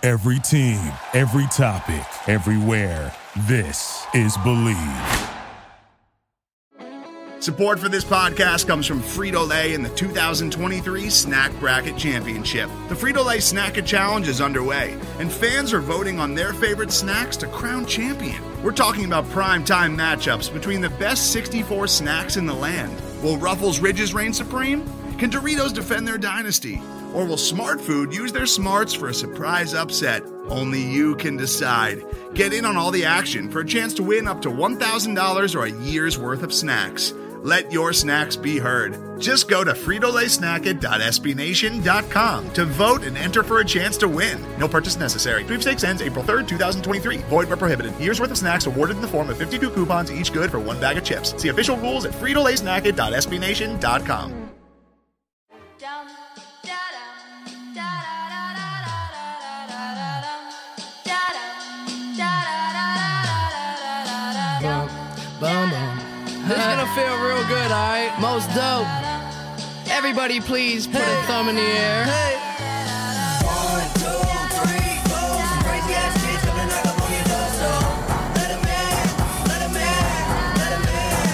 Every team, every topic, everywhere. This is Believe. Support for this podcast comes from Frito-Lay and the 2023 Snack Bracket Championship. The Frito-Lay Snack-It Challenge is underway, and fans are voting on their favorite snacks to crown champion. We're talking about prime-time matchups between the best 64 snacks in the land. Will Ruffles Ridges reign supreme? Can Doritos defend their dynasty? Or will Smart Food use their smarts for a surprise upset? Only you can decide. Get in on all the action for a chance to win up to $1,000 or a year's worth of snacks. Let your snacks be heard. Just go to fritolaysnacket.sbnation.com to vote and enter for a chance to win. No purchase necessary. Sweepstakes ends April 3rd, 2023. Void where prohibited. Year's worth of snacks awarded in the form of 52 coupons, each good for one bag of chips. See official rules at fritolaysnacket.sbnation.com. This is gonna feel real good, alright? Most dope. Everybody please put a thumb in the air. Hey. 1, 2, 3, 4. Some crazy ass shit coming knock up on your door, so let 'em in, let 'em in, let 'em in.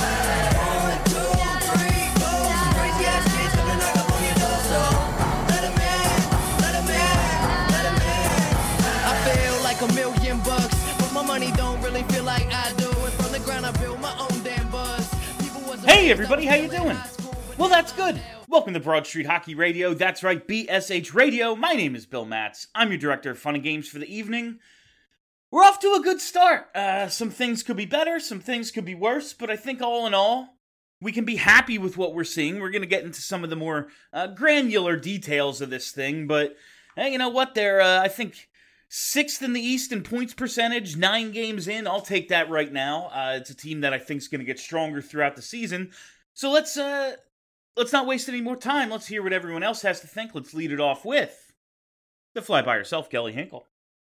1, 2, 3, 4. Some crazy ass shit coming knock up on your door, so let 'em in, let 'em in, let 'em in. I feel like $1,000,000, but my money don't really feel like I do. And from the ground I build my own damn buzz. Hey everybody, how you doing? Well, that's good. Welcome to Broad Street Hockey Radio. That's right, BSH Radio. My name is Bill Matz. I'm your director of fun and games for the evening. We're off to a good start. Some things could be better, some things could be worse, but I think all in all, we can be happy with what we're seeing. We're going to get into some of the more granular details of this thing, but hey, you know what? They're, I think, 6th in the East in points percentage, 9 games in. I'll take that right now. It's a team that I think is going to get stronger throughout the season. So let's not waste any more time. Let's hear what everyone else has to think. Let's lead it off with the fly by herself, Kelly Hinkle.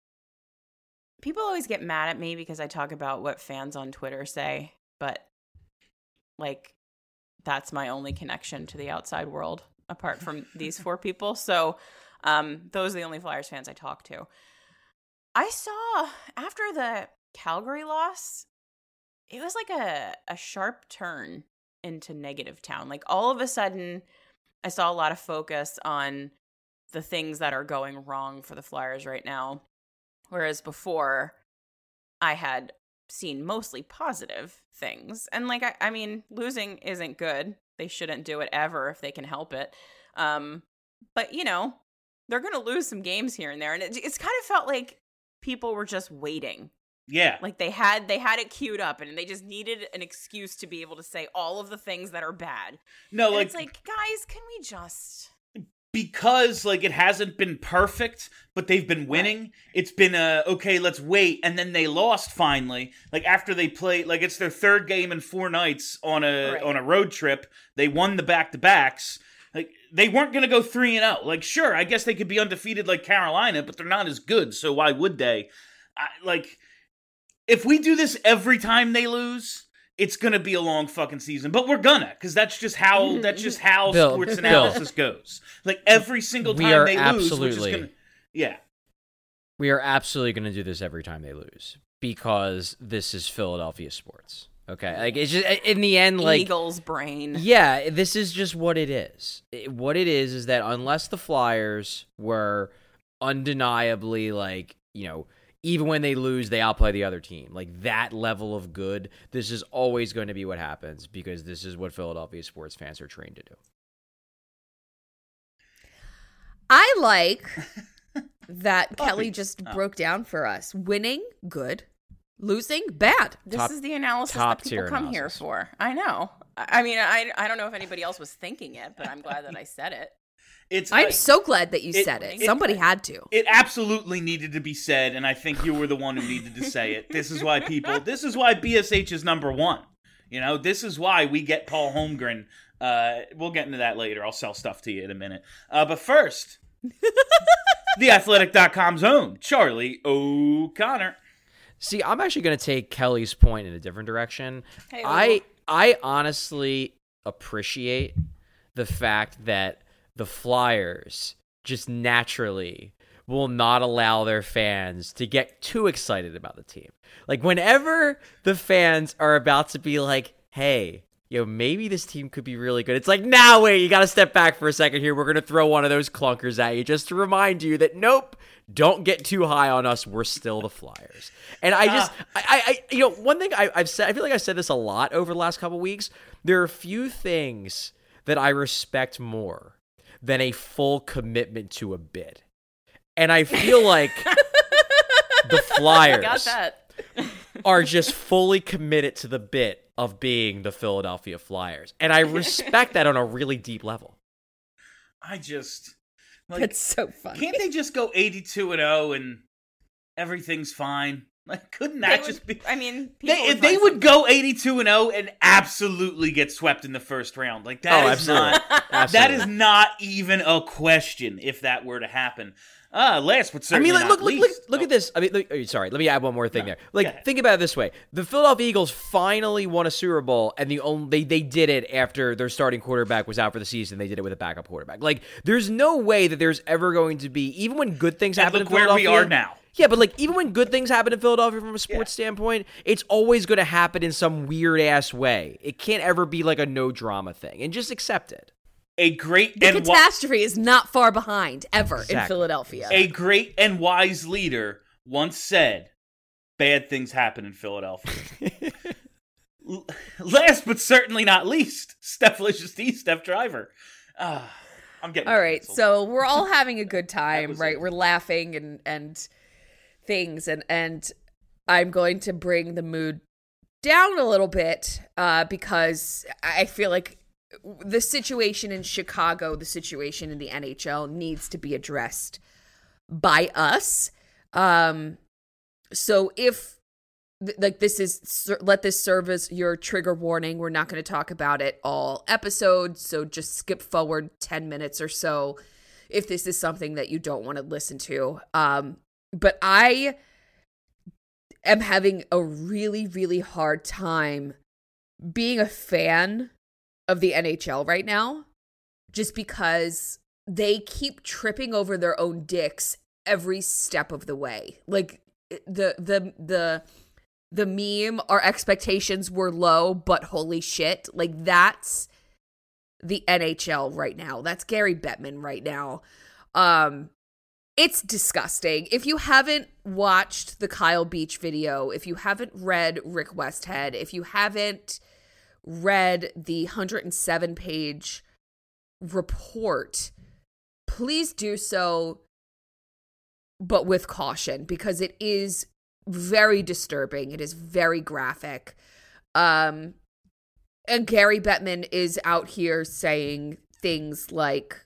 People always get mad at me because I talk about what fans on Twitter say, but like that's my only connection to the outside world apart from these 4 people. So those are the only Flyers fans I talk to. I saw after the Calgary loss, it was like a sharp turn into negative town. Like all of a sudden, I saw a lot of focus on the things that are going wrong for the Flyers right now. Whereas before, I had seen mostly positive things. And like, I mean, losing isn't good. They shouldn't do it ever if they can help it. But, you know, they're going to lose some games here and there. And it's kind of felt like people were just waiting. Yeah. Like they had it queued up and they just needed an excuse to be able to say all of the things that are bad. No, and like it's like, guys, can we just... Because, like, it hasn't been perfect, but they've been winning. Right. It's been okay, let's wait. And then they lost finally. Like, after they played, like, it's their 3rd game in 4 nights on a road trip. They won the back-to-backs. Like, they weren't going to go 3-0. Like, sure, I guess they could be undefeated like Carolina, but they're not as good, so why would they? Like, if we do this every time they lose, it's going to be a long fucking season. But we're gonna, because that's just how sports analysis goes. Like, every single time they lose, we're just going to... Yeah. We are absolutely going to do this every time they lose, because this is Philadelphia sports. Okay, like it's just in the end, like Eagles brain. Yeah, this is just what it is. What it is that unless the Flyers were undeniably, like, you know, even when they lose, they outplay the other team, like that level of good, this is always going to be what happens, because this is what Philadelphia sports fans are trained to do. I like that Kelly just broke down for us. Winning, good. Losing, bad. This is the analysis that people come here for. I know. I mean, I don't know if anybody else was thinking it, but I'm glad that I said it. I'm so glad that you said it. Somebody had to. It absolutely needed to be said, and I think you were the one who needed to say it. This is why BSH is number 1. You know, this is why we get Paul Holmgren. We'll get into that later. I'll sell stuff to you in a minute. But first, TheAthletic.com's own Charlie O'Connor. See, I'm actually going to take Kelly's point in a different direction. Hey, I honestly appreciate the fact that the Flyers just naturally will not allow their fans to get too excited about the team. Like, whenever the fans are about to be like, hey, maybe this team could be really good, it's like, nah, wait, you got to step back for a second here. We're going to throw one of those clunkers at you just to remind you that, nope, don't get too high on us. We're still the Flyers. And one thing I've said, I feel like I've said this a lot over the last couple weeks. There are few things that I respect more than a full commitment to a bid. And I feel like the Flyers Got that. are just fully committed to the bit of being the Philadelphia Flyers. And I respect that on a really deep level. That's so funny. Can't they just go 82-0 and everything's fine? Like, couldn't that just be? I mean, they would go 82-0 and absolutely get swept in the first round. Like, that is not that is not even a question if that were to happen. Last but certainly not least. Look at this. I mean, sorry. Let me add one more thing there. Like, think about it this way: the Philadelphia Eagles finally won a Super Bowl, and they did it after their starting quarterback was out for the season. They did it with a backup quarterback. Like, there's no way that there's ever going to be, even when good things happen in Philadelphia. Where we are now. Yeah, but like, even when good things happen in Philadelphia from a sports standpoint, it's always going to happen in some weird ass way. It can't ever be like a no drama thing, and just accept it. The catastrophe is not far behind, ever, in Philadelphia. A great and wise leader once said, bad things happen in Philadelphia. Last but certainly not least, Steph Driver. I'm getting all right, canceled. so we're all having a good time, right? We're laughing and things, and I'm going to bring the mood down a little bit because I feel like the situation in Chicago, the situation in the NHL needs to be addressed by us. So if let this serve as your trigger warning. We're not going to talk about it all episode, so just skip forward 10 minutes or so if this is something that you don't want to listen to. But I am having a really, really hard time being a fan of the NHL right now, just because they keep tripping over their own dicks every step of the way. Like the meme, our expectations were low, but holy shit. Like, that's the NHL right now. That's Gary Bettman right now. It's disgusting. If you haven't watched the Kyle Beach video, if you haven't read Rick Westhead, if you haven't read the 107-page report, please do so, but with caution, because it is very disturbing. It is very graphic. And Gary Bettman is out here saying things like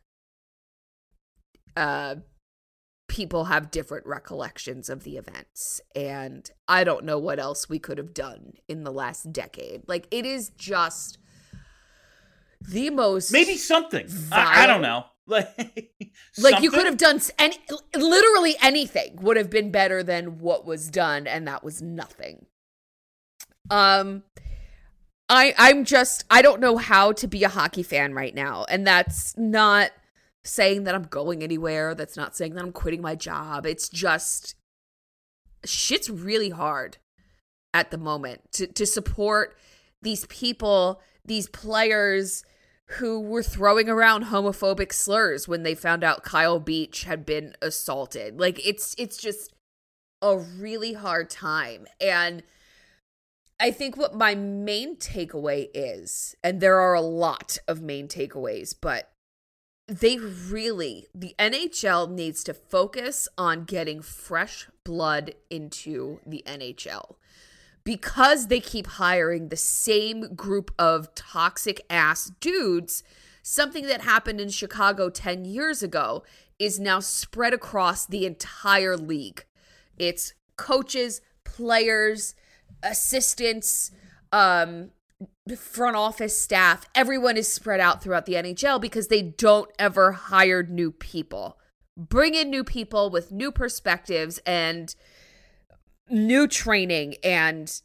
people have different recollections of the events, and I don't know what else we could have done in the last decade. Like, it is just the most maybe something. I don't know. Like you could have done literally anything would have been better than what was done, and that was nothing. I don't know how to be a hockey fan right now, and that's not saying that I'm going anywhere. That's not saying that I'm quitting my job. It's just shit's really hard at the moment to support these people, these players who were throwing around homophobic slurs when they found out Kyle Beach had been assaulted. Like, it's just a really hard time. And I think what my main takeaway is, and there are a lot of main takeaways, but the NHL needs to focus on getting fresh blood into the NHL. Because they keep hiring the same group of toxic ass dudes, something that happened in Chicago 10 years ago is now spread across the entire league. It's coaches, players, assistants, front office staff. Everyone is spread out throughout the NHL because they don't ever hire new people. Bring in new people with new perspectives and new training and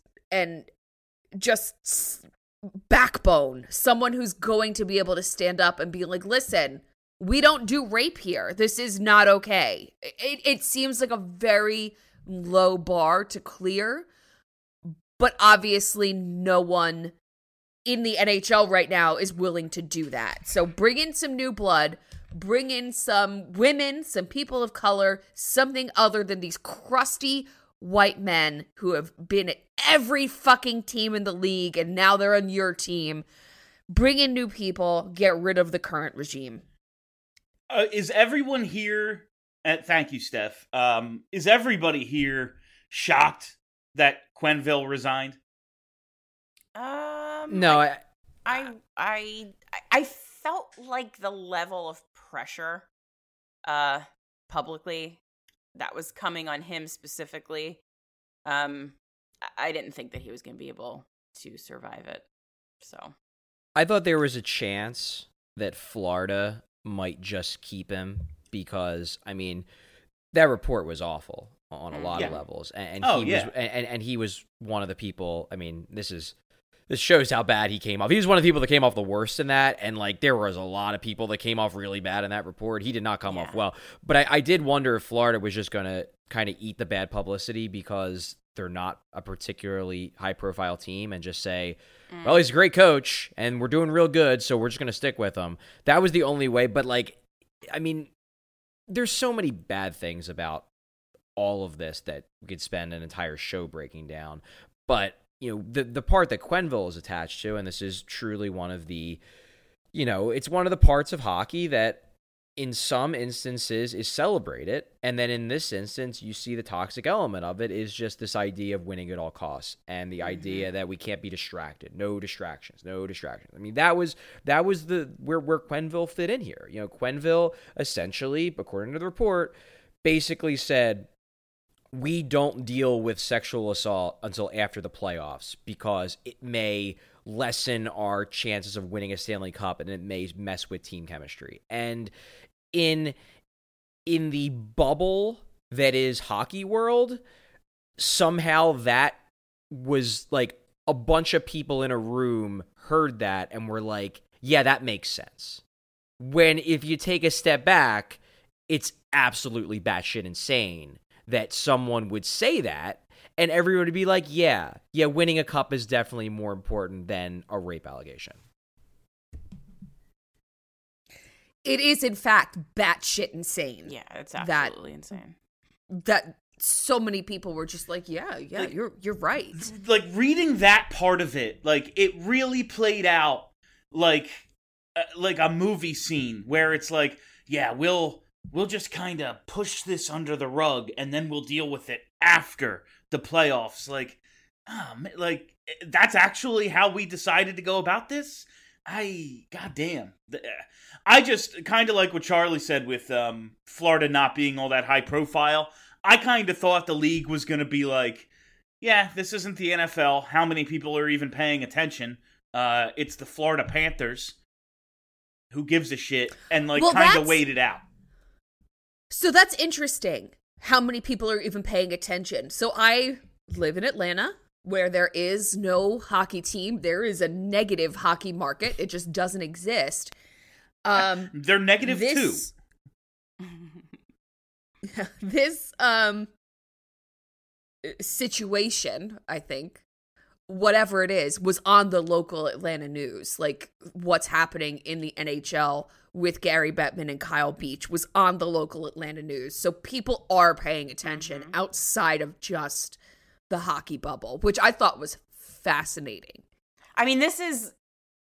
just backbone. Someone who's going to be able to stand up and be like, listen, we don't do rape here. This is not okay. It seems like a very low bar to clear, but obviously no one in the NHL right now is willing to do that. So bring in some new blood, bring in some women, some people of color, something other than these crusty white men who have been at every fucking team in the league and now they're on your team. Bring in new people, get rid of the current regime. Is everyone here thank you, Steph. Is everybody here shocked that Quenneville resigned? No, I felt like the level of pressure publicly that was coming on him specifically. I didn't think that he was going to be able to survive it. So I thought there was a chance that Florida might just keep him because, I mean, that report was awful on a lot of levels, and he was one of the people. I mean, this shows how bad he came off. He was one of the people that came off the worst in that, and like there was a lot of people that came off really bad in that report. He did not come off well, but I did wonder if Florida was just going to kind of eat the bad publicity because they're not a particularly high-profile team and just say, well, he's a great coach, and we're doing real good, so we're just going to stick with him. That was the only way, but, like, I mean, there's so many bad things about all of this that we could spend an entire show breaking down. But, you know, the part that Quenneville is attached to, and this is truly one of the, you know, it's one of the parts of hockey that in some instances is celebrated, and then in this instance you see the toxic element of it is just this idea of winning at all costs and the idea that we can't be distracted. No distractions. I mean, that was the where Quenneville fit in here. You know, Quenneville essentially, according to the report, basically said we don't deal with sexual assault until after the playoffs because it may lessen our chances of winning a Stanley Cup and it may mess with team chemistry. And in the bubble that is hockey world, somehow that was like a bunch of people in a room heard that and were like, yeah, that makes sense. When if you take a step back, it's absolutely batshit insane that someone would say that and everyone would be like, yeah, winning a cup is definitely more important than a rape allegation. It is, in fact, batshit insane. yeah, it's absolutely insane. That so many people were just like, yeah, Like, you're right. Like, reading that part of it, like, it really played out like a movie scene where it's like, yeah, we'll just kind of push this under the rug and then we'll deal with it after the playoffs. Like, like that's actually how we decided to go about this. Goddamn. I just kind of like what Charlie said with Florida not being all that high profile. I kind of thought the league was going to be like, yeah, this isn't the NFL. How many people are even paying attention? It's the Florida Panthers. Who gives a shit? And like kind of wait it out. So that's interesting. How many people are even paying attention? So I live in Atlanta, where there is no hockey team. There is a negative hockey market. It just doesn't exist. They're negative too. This situation, I think, whatever it is, was on the local Atlanta news. Like what's happening in the NHL with Gary Bettman and Kyle Beach was on the local Atlanta news. So people are paying attention outside of just the hockey bubble, which I thought was fascinating. I mean, this is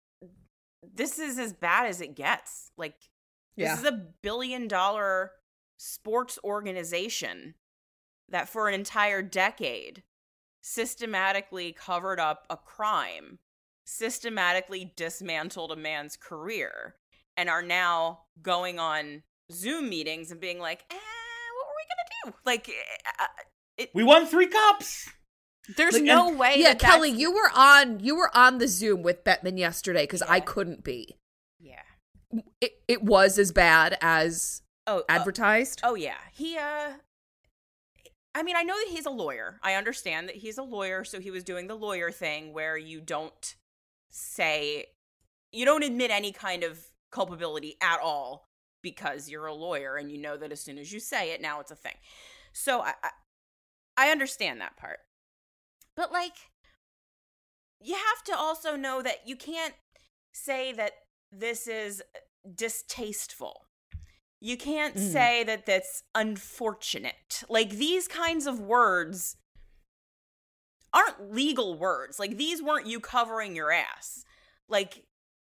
as bad as it gets. Like, this is $1 billion sports organization that for an entire decade systematically covered up a crime, systematically dismantled a man's career, and are now going on Zoom meetings and being like, what were we going to do? Like, we won 3 cups. There's Like, no way. Yeah, that Kelly, that's- you were on the Zoom with Bettman yesterday because I couldn't be. Yeah. It was as bad as advertised. Oh yeah. He I mean, I know that he's a lawyer. I understand that he's a lawyer, so he was doing the lawyer thing where you don't admit any kind of culpability at all because you're a lawyer and you know that as soon as you say it, now it's a thing. So I understand that part. But, like, you have to also know that you can't say that this is distasteful. You can't say that that's unfortunate. Like, these kinds of words aren't legal words. Like, these weren't you covering your ass. Like,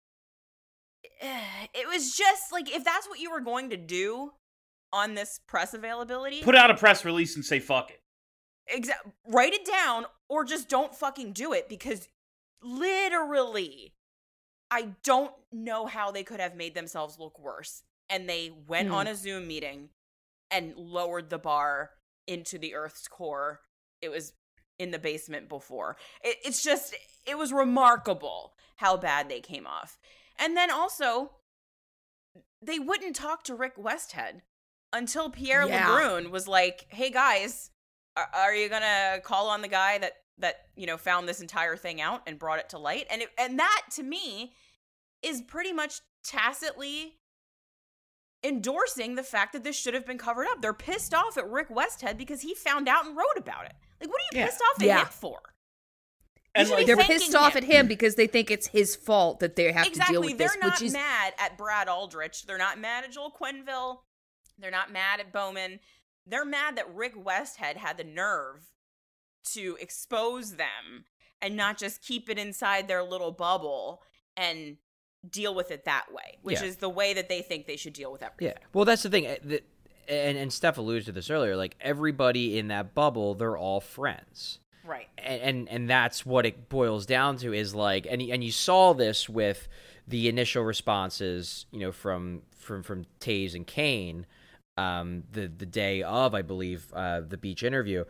it was just, like, if that's what you were going to do on this press availability... Put out a press release and say fuck it. Write it down, or just don't fucking do it, because literally, I don't know how they could have made themselves look worse. And they went on a Zoom meeting and lowered the bar into the Earth's core. It was in the basement before. It's just, it was remarkable how bad they came off. And then also, they wouldn't talk to Rick Westhead until Pierre LeBrun was like, hey guys, are you gonna call on the guy that you know, found this entire thing out and brought it to light? And that, to me, is pretty much tacitly endorsing the fact that this should have been covered up. They're pissed off at Rick Westhead because he found out and wrote about it. Like, what are you pissed off at him for? And like, they're pissed off at him because they think it's his fault that they have to deal with this. They're not mad at Brad Aldrich. They're not mad at Joel Quenneville. They're not mad at Bowman. They're mad that Rick Westhead had the nerve to expose them and not just keep it inside their little bubble and deal with it that way, which is the way that they think they should deal with everything. Yeah. Well, that's the thing. And Steph alluded to this earlier. Like, everybody in that bubble, they're all friends. Right. And that's what it boils down to, is like, and you saw this with the initial responses, you know, from Taves and Kane, the day of, I believe, the beach interview.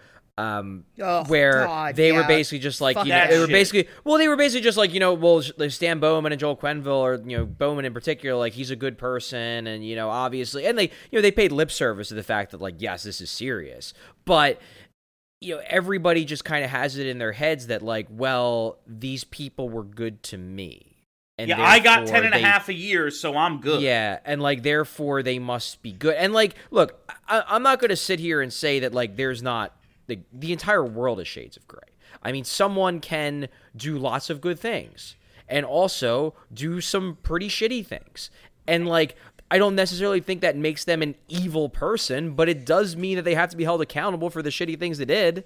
Where they were basically just like, you know, they were basically just like, you know, well, Stan Bowman and Joel Quenneville, or, you know, Bowman in particular, like, he's a good person, and, you know, obviously, and they, you know, they paid lip service to the fact that, like, yes, this is serious, but, you know, everybody just kind of has it in their heads that, like, well, these people were good to me. And yeah, I got 10 and a half a year, so I'm good. Yeah, and, like, therefore they must be good. And, like, look, I'm not going to sit here and say that, like, there's not, the entire world is shades of gray. I mean, someone can do lots of good things and also do some pretty shitty things. And, like, I don't necessarily think that makes them an evil person, but it does mean that they have to be held accountable for the shitty things they did.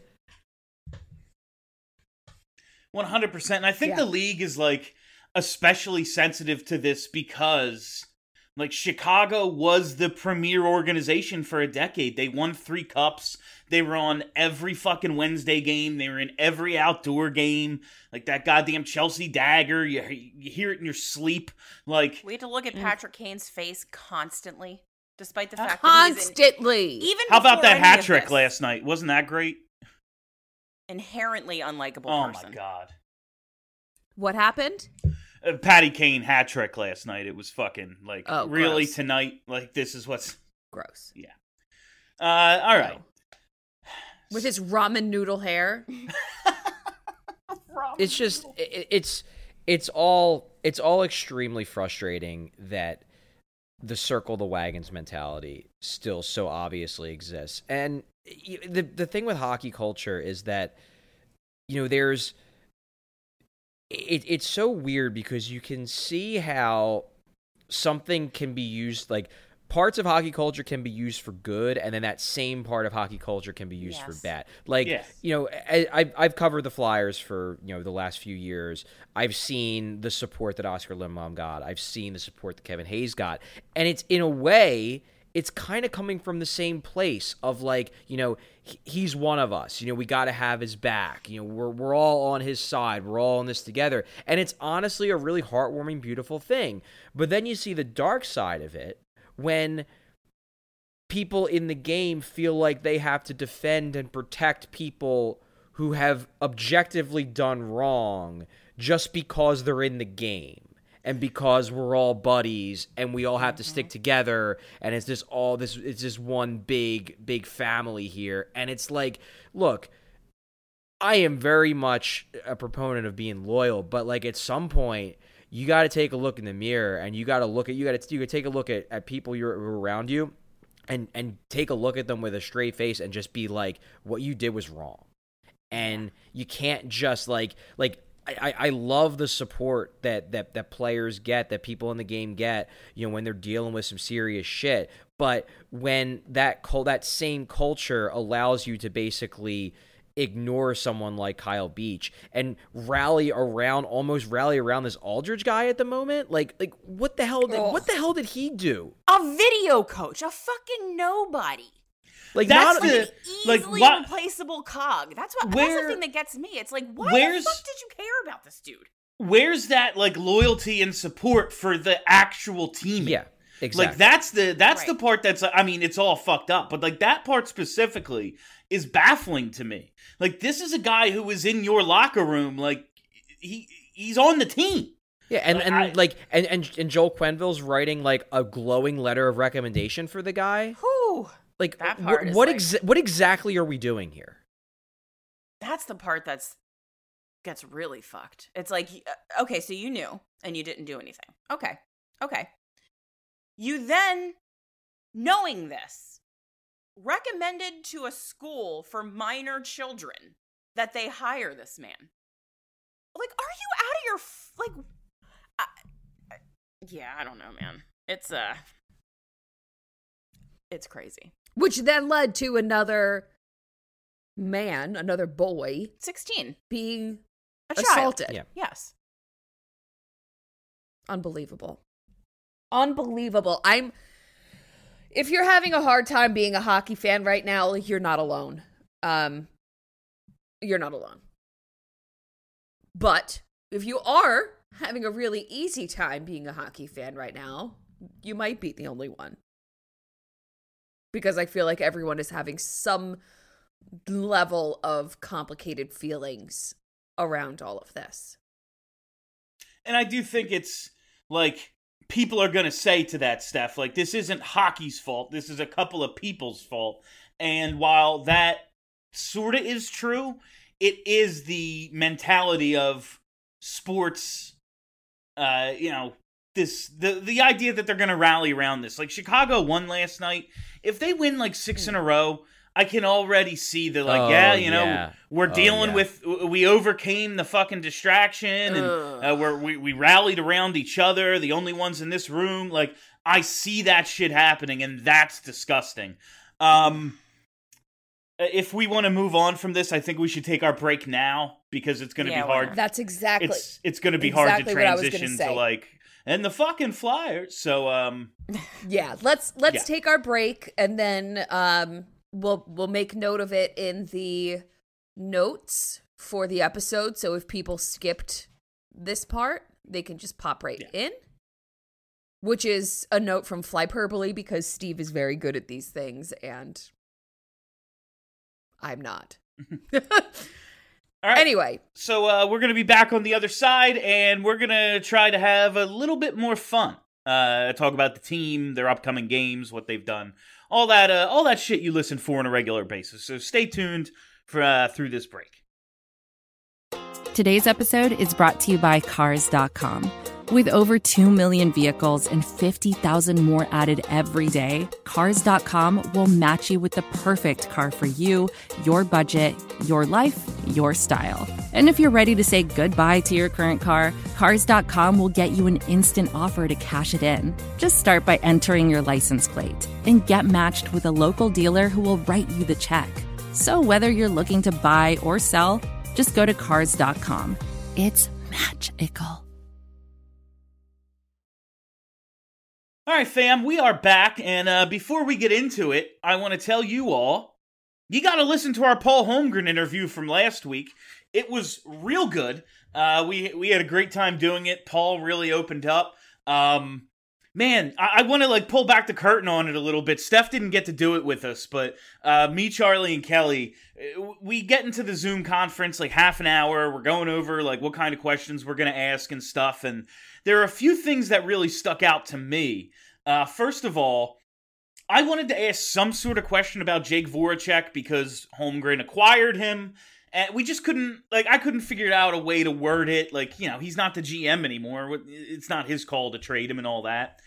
100%. And I think the league is, like, especially sensitive to this because, like, Chicago was the premier organization for a decade. They won 3 cups. They were on every fucking Wednesday game. They were in every outdoor game. Like, that goddamn Chelsea dagger. You hear it in your sleep. Like, we had to look at Patrick Kane's face constantly, despite the fact constantly. That even how about that hat trick this, last night? Wasn't that great? Inherently unlikable person. Oh my god. What happened? Patty Kane hat trick last night. It was fucking, like, really gross. tonight? Like, this is what's... Gross. Yeah. All right. With his ramen noodle hair. It's just, it's all extremely frustrating that the circle the wagons mentality still so obviously exists. And the thing with hockey culture is that, you know, there's... It's so weird because you can see how something can be used, like, parts of hockey culture can be used for good, and then that same part of hockey culture can be used for bad. Like, you know, I've covered the Flyers for, you know, the last few years. I've seen the support that Oscar Lindblom got. I've seen the support that Kevin Hayes got. And it's, in a way, it's kind of coming from the same place of, like, you know, he's one of us. You know, we got to have his back. You know, we're all on his side. We're all in this together. And it's honestly a really heartwarming, beautiful thing. But then you see the dark side of it when people in the game feel like they have to defend and protect people who have objectively done wrong just because they're in the game. And because we're all buddies and we all have to stick together, and it's just it's just one big family here. And it's like, look, I am very much a proponent of being loyal, but, like, at some point you got to take a look in the mirror, and you got to take a look at people who are around you, and take a look at them with a straight face and just be like, what you did was wrong. And you can't just like I love the support that players get, that people in the game get, when they're dealing with some serious shit. But when that same culture allows you to basically ignore someone like Kyle Beach and rally around this Aldridge guy at the moment, like what the hell did he do? A video coach, a fucking nobody. Like That's not Like the- an like, easily what- replaceable cog. That's the thing that gets me. It's like, why the Where's- fuck did you care about this dude? Where's that like loyalty and support for the actual team? Yeah, exactly. Like that's the Right. part that's, I mean, it's all fucked up, but like that part specifically is baffling to me. Like, this is a guy who was in your locker room, like he's on the team. Yeah, and Joel Quenneville's writing like a glowing letter of recommendation for the guy. Whew. Like, That part is what like- what exactly are we doing here? That's the part gets really fucked. It's like, okay, so you knew and you didn't do anything. Okay. You then, knowing this, recommended to a school for minor children that they hire this man. Like, are you out of your yeah, I don't know, man. It's crazy. Which then led to another boy 16. being A child. assaulted. Yeah. Yes. Unbelievable. If you're having a hard time being a hockey fan right now, you're not alone. You're not alone. But if you are having a really easy time being a hockey fan right now, you might be the only one. Because I feel like everyone is having some level of complicated feelings around all of this. And I do think it's like people are going to say to that, Steph, like, this isn't hockey's fault. This is a couple of people's fault. And while that sort of is true, it is the mentality of sports, the idea that they're going to rally around this. Like, Chicago won last night. If they win like 6 in a row, I can already see that, like, we're dealing with, we overcame the fucking distraction, and we rallied around each other, the only ones in this room. Like, I see that shit happening, and that's disgusting. If we want to move on from this, I think we should take our break now, because it's going to be why hard. not? That's exactly. It's going to be hard to exactly what I was gonna transition say. to, like, and the fucking Flyers. So, Yeah, let's Yeah. take our break, and then we'll make note of it in the notes for the episode. So if people skipped this part, they can just pop right in. Which is a note from Flyperbole, because Steve is very good at these things and I'm not. all right. Anyway, So we're going to be back on the other side, and we're going to try to have a little bit more fun. Talk about the team, their upcoming games, what they've done, all that shit you listen for on a regular basis. So stay tuned for through this break. Today's episode is brought to you by Cars.com. With over 2 million vehicles and 50,000 more added every day, Cars.com will match you with the perfect car for you, your budget, your life, your style. And if you're ready to say goodbye to your current car, Cars.com will get you an instant offer to cash it in. Just start by entering your license plate and get matched with a local dealer who will write you the check. So whether you're looking to buy or sell, just go to Cars.com. It's magical. All right, fam, we are back, and before we get into it, I want to tell you all, you got to listen to our Paul Holmgren interview from last week. It was real good. We had a great time doing it. Paul really opened up. Man, I want to like pull back the curtain on it a little bit. Steph didn't get to do it with us, but me, Charlie, and Kelly, we get into the Zoom conference like half an hour. We're going over like what kind of questions we're going to ask and stuff, and there are a few things that really stuck out to me. First of all, I wanted to ask some sort of question about Jake Voracek because Holmgren acquired him, And we just couldn't, like, I couldn't figure out a way to word it. Like, you know, he's not the GM anymore. It's not his call to trade him and all that.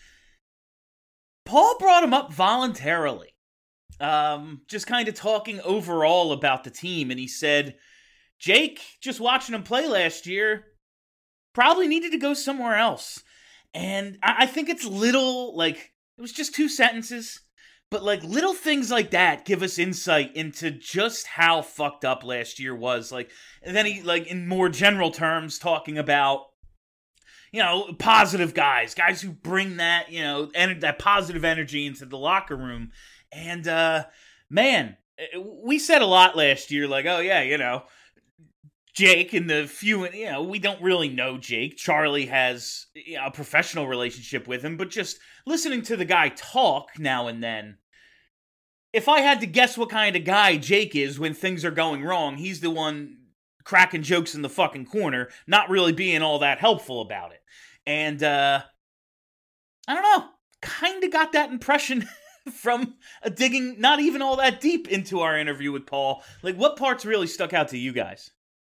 Paul brought him up voluntarily. Just kind of talking overall about the team. And he said, Jake, just watching him play last year, probably needed to go somewhere else. And I think it's little, like, it was just 2 sentences. But, like, little things like that give us insight into just how fucked up last year was. Like, and then he, like, in more general terms, talking about, you know, positive guys who bring that, you know, that positive energy into the locker room. And, man, we said a lot last year, like, oh, yeah, you know, Jake and the few, you know, we don't really know Jake. Charlie has, you know, a professional relationship with him, but just listening to the guy talk now and then, if I had to guess what kind of guy Jake is when things are going wrong, he's the one cracking jokes in the fucking corner, not really being all that helpful about it. And, I don't know, kind of got that impression from digging not even all that deep into our interview with Paul. Like, what parts really stuck out to you guys?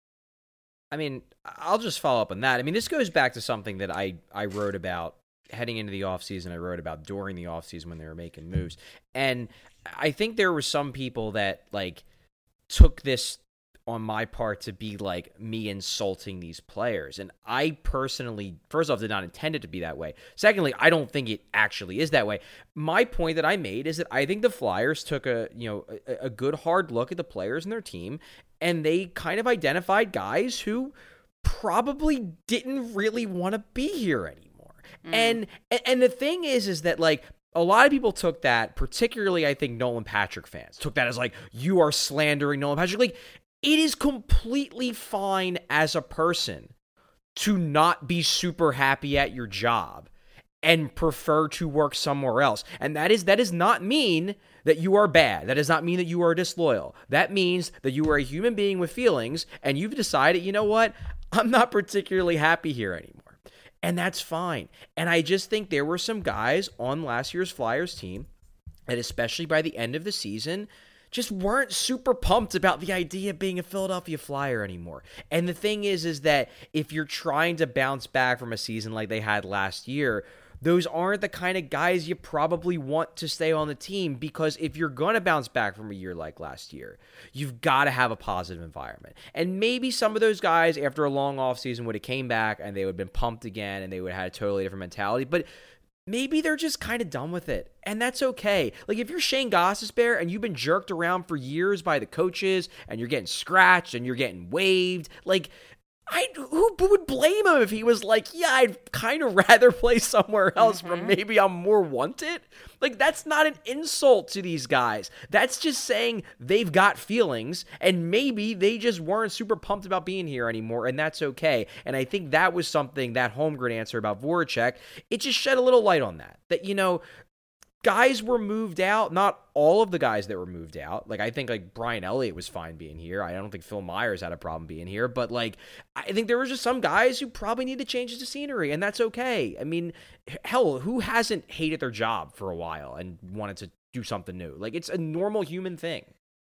I mean, I'll just follow up on that. I mean, this goes back to something that I wrote about heading into the offseason. I wrote about during the offseason when they were making moves. And I think there were some people that, like, took this on my part to be, like, me insulting these players. And I personally, first off, did not intend it to be that way. Secondly, I don't think it actually is that way. My point that I made is that I think the Flyers took a good hard look at the players in their team, and they kind of identified guys who probably didn't really want to be here anymore. And the thing is that, like, a lot of people took that, particularly I think Nolan Patrick fans, took that as like, you are slandering Nolan Patrick. Like, it is completely fine as a person to not be super happy at your job and prefer to work somewhere else. And that does not mean that you are bad. That does not mean that you are disloyal. That means that you are a human being with feelings and you've decided, you know what, I'm not particularly happy here anymore. And that's fine. And I just think there were some guys on last year's Flyers team, and especially by the end of the season, just weren't super pumped about the idea of being a Philadelphia Flyer anymore. And the thing is that if you're trying to bounce back from a season like they had last year, those aren't the kind of guys you probably want to stay on the team, because if you're going to bounce back from a year like last year, you've got to have a positive environment. And maybe some of those guys after a long offseason would have came back and they would have been pumped again and they would have had a totally different mentality, but maybe they're just kind of done with it, and that's okay. Like, if you're Shane Gostisbehere and you've been jerked around for years by the coaches and you're getting scratched and you're getting waived, like, who would blame him if he was like, yeah, I'd kind of rather play somewhere else where maybe I'm more wanted? Like, that's not an insult to these guys. That's just saying they've got feelings, and maybe they just weren't super pumped about being here anymore, and that's okay. And I think that was something, that Holmgren answer about Voracek, it just shed a little light on that. That, you know, guys were moved out. Not all of the guys that were moved out. Like, I think, like, Brian Elliott was fine being here. I don't think Phil Myers had a problem being here. But, like, I think there were just some guys who probably need to change the scenery, and that's okay. I mean, hell, who hasn't hated their job for a while and wanted to do something new? Like, it's a normal human thing.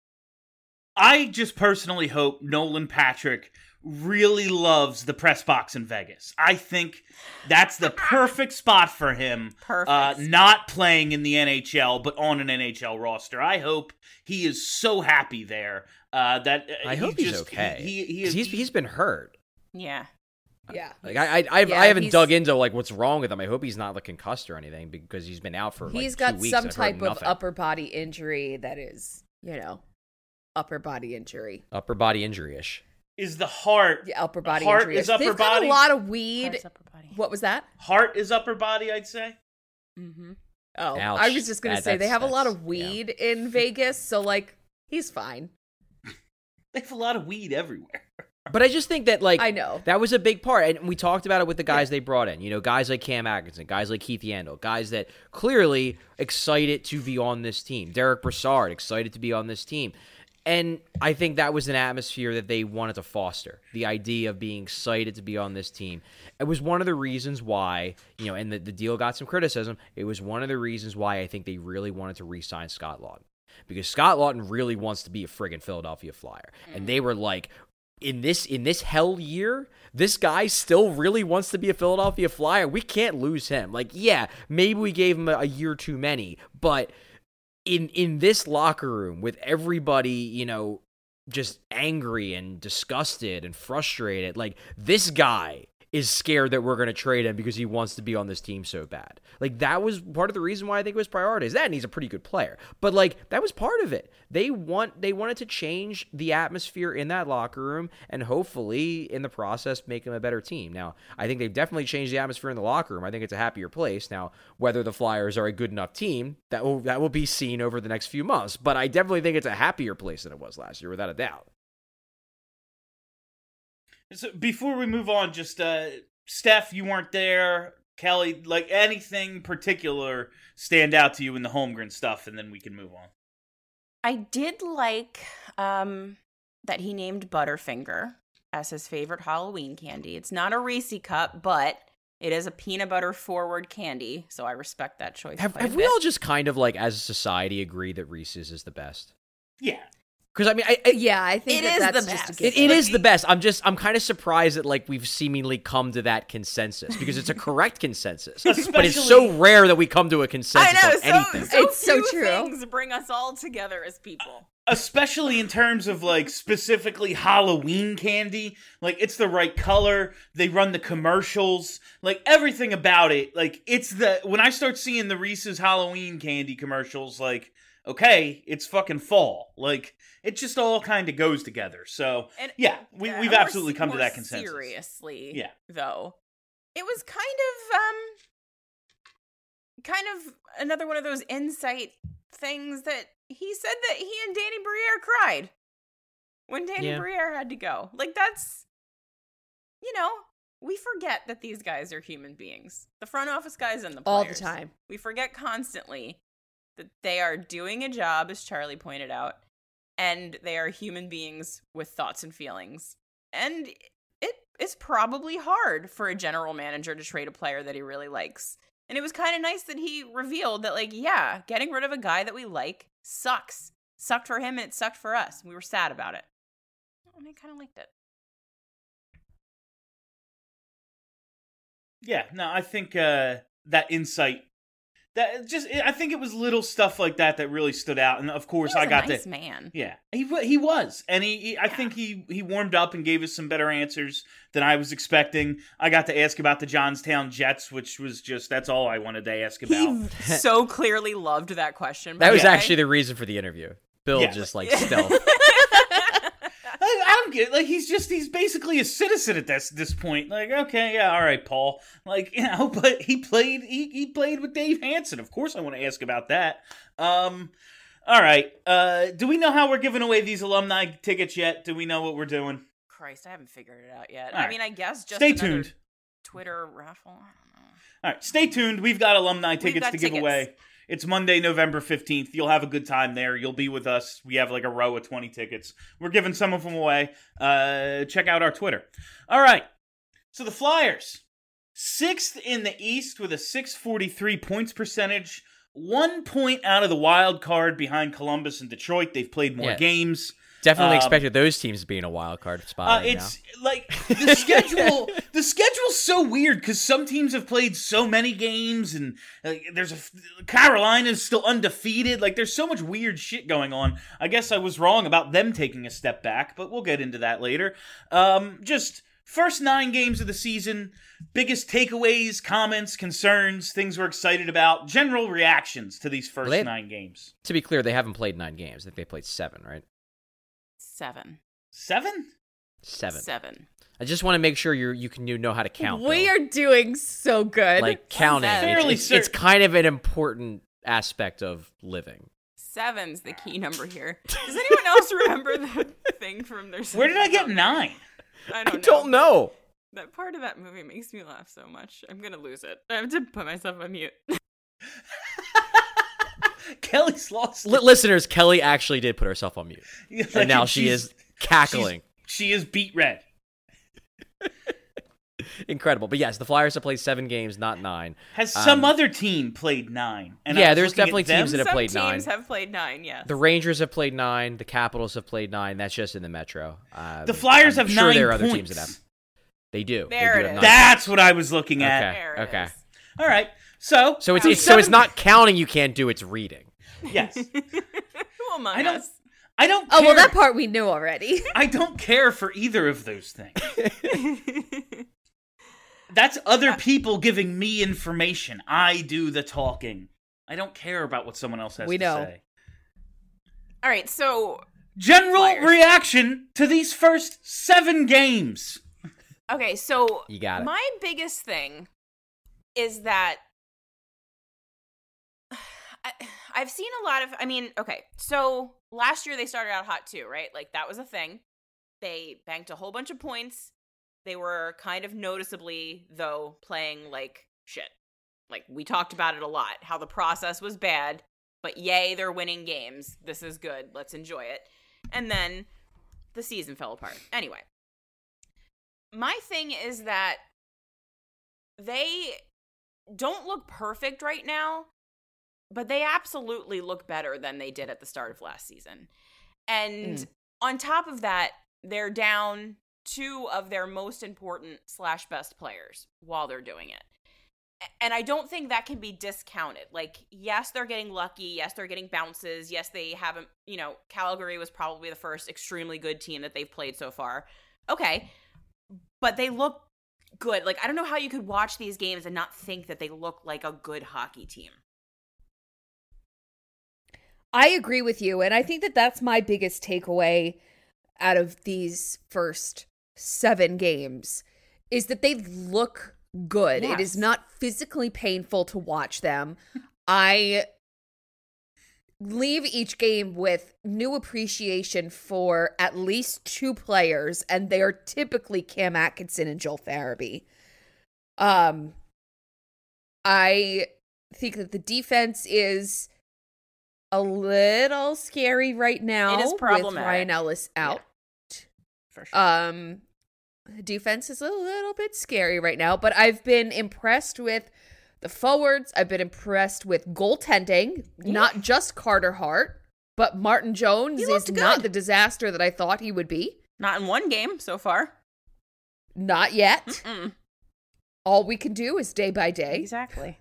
I just personally hope Nolan Patrick really loves the press box in Vegas. I think that's the perfect spot for him. Perfect. Not playing in the NHL, but on an NHL roster. I hope he is so happy there. That I hope he's okay. He's been hurt. Yeah. Yeah. Like, I haven't dug into, like, what's wrong with him. I hope he's not, like, concussed or anything, because he's been out for, like, 2 weeks. He's got some I've type heard of nothing. upper body injury that is, you know, upper body injury. Upper body injury-ish. Is the heart... Yeah, upper body heart injury. is upper They've body? got a lot of weed. Heart's upper body. What was that? Heart is upper body, I'd say. Mm-hmm. Oh, Ouch. I was just going to say, they have a lot of yeah. weed in Vegas, so, like, he's fine. They have a lot of weed everywhere. But I just think that, like, I know. that was a big part. And we talked about it with the guys they brought in. You know, guys like Cam Atkinson, guys like Keith Yandel, guys that clearly excited to be on this team. Derek Brassard, excited to be on this team. And I think that was an atmosphere that they wanted to foster, the idea of being excited to be on this team. It was one of the reasons why, you know, and the deal got some criticism, it was one of the reasons why I think they really wanted to re-sign Scott Laughton. because Scott Lawton really wants to be a friggin' Philadelphia Flyer. And they were like, in this hell year, this guy still really wants to be a Philadelphia Flyer. We can't lose him. Like, yeah, maybe we gave him a year too many, but in this locker room with everybody, you know, just angry and disgusted and frustrated, like, this guy is scared that we're going to trade him because he wants to be on this team so bad. Like, that was part of the reason why I think it was prioritized. That, and he's a pretty good player. But, like, that was part of it. They wanted to change the atmosphere in that locker room and hopefully, in the process, make them a better team. Now, I think they've definitely changed the atmosphere in the locker room. I think it's a happier place. Now, whether the Flyers are a good enough team, that will be seen over the next few months. But I definitely think it's a happier place than it was last year, without a doubt. So before we move on, just Steph, you weren't there. Kelly, like, anything particular stand out to you in the Holmgren stuff, and then we can move on. I did like that he named Butterfinger as his favorite Halloween candy. It's not a Reese cup, but it is a peanut butter forward candy, so I respect that choice. Have we all just kind of, like, as a society, agree that Reese's is the best? Yeah. Because, I mean, I think that's the just best. a given. It is the best. I'm kind of surprised that, like, we've seemingly come to that consensus because it's a correct consensus. But it's so rare that we come to a consensus on anything. It's so few true. Things bring us all together as people. Especially in terms of, like, specifically Halloween candy. Like, it's the right color. They run the commercials. Like, everything about it. Like, when I start seeing the Reese's Halloween candy commercials, like, okay, it's fucking fall. Like, it just all kind of goes together. So, And, yeah, we've absolutely come to that consensus. Seriously, Yeah. though, it was kind of another one of those insight things that he said that he and Danny Briere cried when Danny Briere had to go. Like, that's, you know, we forget that these guys are human beings. The front office guys and the players. All the time. We forget constantly that they are doing a job, as Charlie pointed out, and they are human beings with thoughts and feelings. And it is probably hard for a general manager to trade a player that he really likes. And it was kind of nice that he revealed that, like, yeah, getting rid of a guy that we like sucks. Sucked for him and it sucked for us. We were sad about it. And I kind of liked it. Yeah, no, I think that insight, I think it was little stuff like that that really stood out. And of course, He was I got a nice to, man. yeah, he was, and I think he warmed up and gave us some better answers than I was expecting. I got to ask about the Johnstown Jets, which was that's all I wanted to ask about. He so clearly loved that question. That was by the way. actually the reason for the interview. Bill just, like, stealth. I don't get it. Like, he's basically a citizen at this point. Like, okay, yeah, all right, Paul. Like, you know, but he played with Dave Hansen. Of course I want to ask about that. All right. Do we know how we're giving away these alumni tickets yet? Do we know what we're doing? Christ, I haven't figured it out yet. All I right. mean, I guess just Stay another tuned. Twitter raffle. I don't know. All right, stay tuned. We've got alumni tickets got to give tickets. away. It's Monday, November 15th. You'll have a good time there. You'll be with us. We have like a row of 20 tickets. We're giving some of them away. Check out our Twitter. All right. So the Flyers, 6th in the East with a .643 points percentage. 1 point out of the wild card behind Columbus and Detroit. They've played more games. Definitely expected those teams to be in a wild card spot. It's like the schedule. The schedule's so weird because some teams have played so many games, and Carolina's still undefeated. Like, there's so much weird shit going on. I guess I was wrong about them taking a step back, but we'll get into that later. Just first 9 games of the season. Biggest takeaways, comments, concerns, things we're excited about. General reactions to these first 9 games. To be clear, they haven't played 9 games. I think they played 7, right? 7. 7? 7. I just want to make sure you know how to count. We Bill. are doing so good. Like, counting. It's kind of an important aspect of living. 7's the key number here. Does anyone else remember the thing from their? Where did I get 9? I I don't know. That part of that movie makes me laugh so much. I'm gonna lose it. I have to put myself on mute. Kelly's lost. Listeners, Kelly actually did put herself on mute, Like, and now she is cackling. She is beet red. Incredible. But yes, the Flyers have played 7 games, not 9. Has some other team played 9? And yeah, I was there's looking at definitely them. teams that have Some played teams 9. have played 9, yes. The Rangers have played 9. The Capitals have played 9. That's just in the Metro. The Flyers I'm have sure 9 there are points. other teams that have. They do. There They it do have is. 9 That's what I was looking at. There it Okay. is. All right. So it's not counting. You can't do. It's reading. Yes. Who among I don't. us? I don't. Oh, care. well, that part we knew already. I don't care for either of those things. That's other people giving me information. I do the talking. I don't care about what someone else has We to know. say. All right, so General Flyers. reaction to these first 7 games. okay, so You got it. my biggest thing is that I've seen a lot of, okay, so last year they started out hot too, right? Like that was a thing. They banked a whole bunch of points. They were kind of noticeably, though, playing like shit. Like we talked about it a lot, how the process was bad, but yay, they're winning games. This is good. Let's enjoy it. And then the season fell apart. Anyway, my thing is that they don't look perfect right now, but they absolutely look better than they did at the start of last season. And on top of that, they're down 2 of their most important / best players while they're doing it. And I don't think that can be discounted. Like, yes, they're getting lucky. Yes, they're getting bounces. Yes, they haven't, Calgary was probably the first extremely good team that they've played so far. Okay. But they look good. Like, I don't know how you could watch these games and not think that they look like a good hockey team. I agree with you, and I think that that's my biggest takeaway out of these first 7 games is that they look good. Yes. It is not physically painful to watch them. I leave each game with new appreciation for at least 2 players, and they are typically Cam Atkinson and Joel Farabee. I think that the defense is a little scary right now. It is with problematic. Ryan Ellis out. For sure. Defense is a little bit scary right now, but I've been impressed with the forwards. I've been impressed with goaltending, not just Carter Hart, but Martin Jones is looked not good. the disaster that I thought he would be. Not in one game so far. Not yet. Mm-mm. All we can do is day by day. Exactly.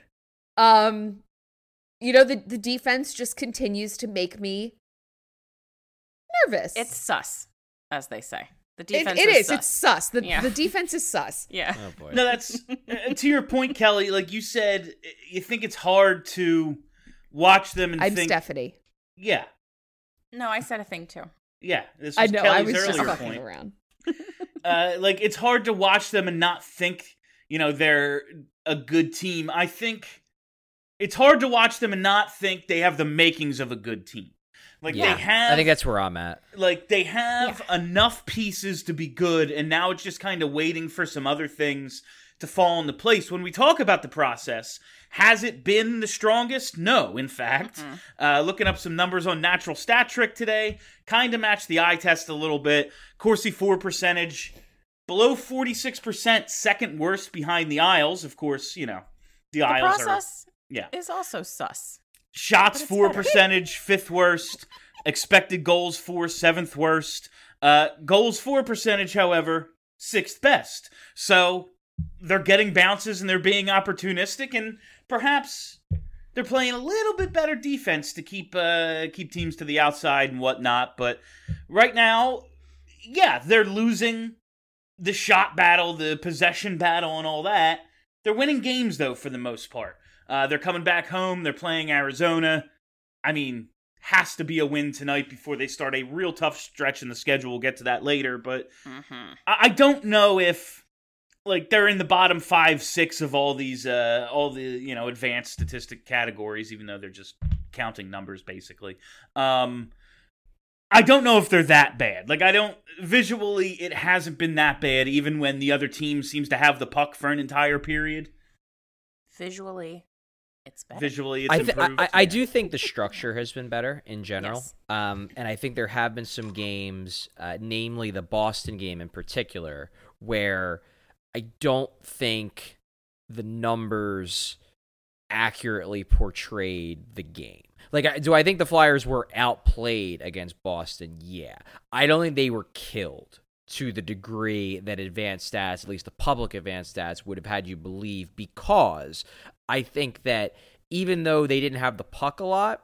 The defense just continues to make me nervous. It's sus, as they say. The defense it is. sus. It's sus. The Yeah. defense is sus. Yeah. Oh boy. No, that's to your point, Kelly. Like you said, you think it's hard to watch them and I'm think, Stephanie. yeah, No, I said a thing too. yeah. This I was know. Kelly's I was just earlier fucking point. around. Like it's hard to watch them and not think, they're a good team. I think it's hard to watch them and not think they have the makings of a good team. Like Yeah. they have, I think that's where I'm at. like they have enough pieces to be good, and now it's just kind of waiting for some other things to fall into place. When we talk about the process, has it been the strongest? No, in fact. Looking up some numbers on Natural Stat Trick today, kind of matched the eye test a little bit. Corsi for percentage, below 46%, second worst behind the Isles. Of course, the The Isles process are, is also sus. Shots But it's for better. percentage, 5th worst. Expected goals for, 7th worst. Goals for percentage, however, 6th best. So they're getting bounces and they're being opportunistic, and perhaps they're playing a little bit better defense to keep teams to the outside and whatnot. But right now, yeah, they're losing the shot battle, the possession battle, and all that. They're winning games, though, for the most part. They're coming back home. They're playing Arizona. I mean, has to be a win tonight before they start a real tough stretch in the schedule. We'll get to that later. But I don't know if they're in the bottom 5, 6 of all these, all the advanced statistic categories, even though they're just counting numbers basically. I don't know if they're that bad. Visually, it hasn't been that bad, even when the other team seems to have the puck for an entire period. Visually, it's better. Visually, it's improved. I do think the structure has been better in general. Yes. And I think there have been some games, namely the Boston game in particular, where I don't think the numbers accurately portrayed the game. Like, do I think the Flyers were outplayed against Boston? Yeah. I don't think they were killed to the degree that advanced stats, at least the public advanced stats, would have had you believe, because I think that even though they didn't have the puck a lot,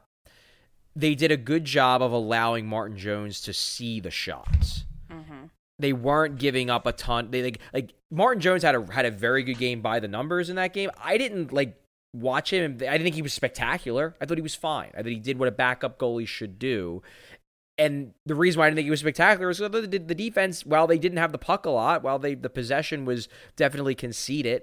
they did a good job of allowing Martin Jones to see the shots. Mm-hmm. They weren't giving up a ton. They like Martin Jones had a very good game by the numbers in that game. I didn't watch him. I didn't think he was spectacular. I thought he was fine. I thought he did what a backup goalie should do. And the reason why I didn't think he was spectacular is because the defense, while they didn't have the puck a lot, while the possession was definitely conceded,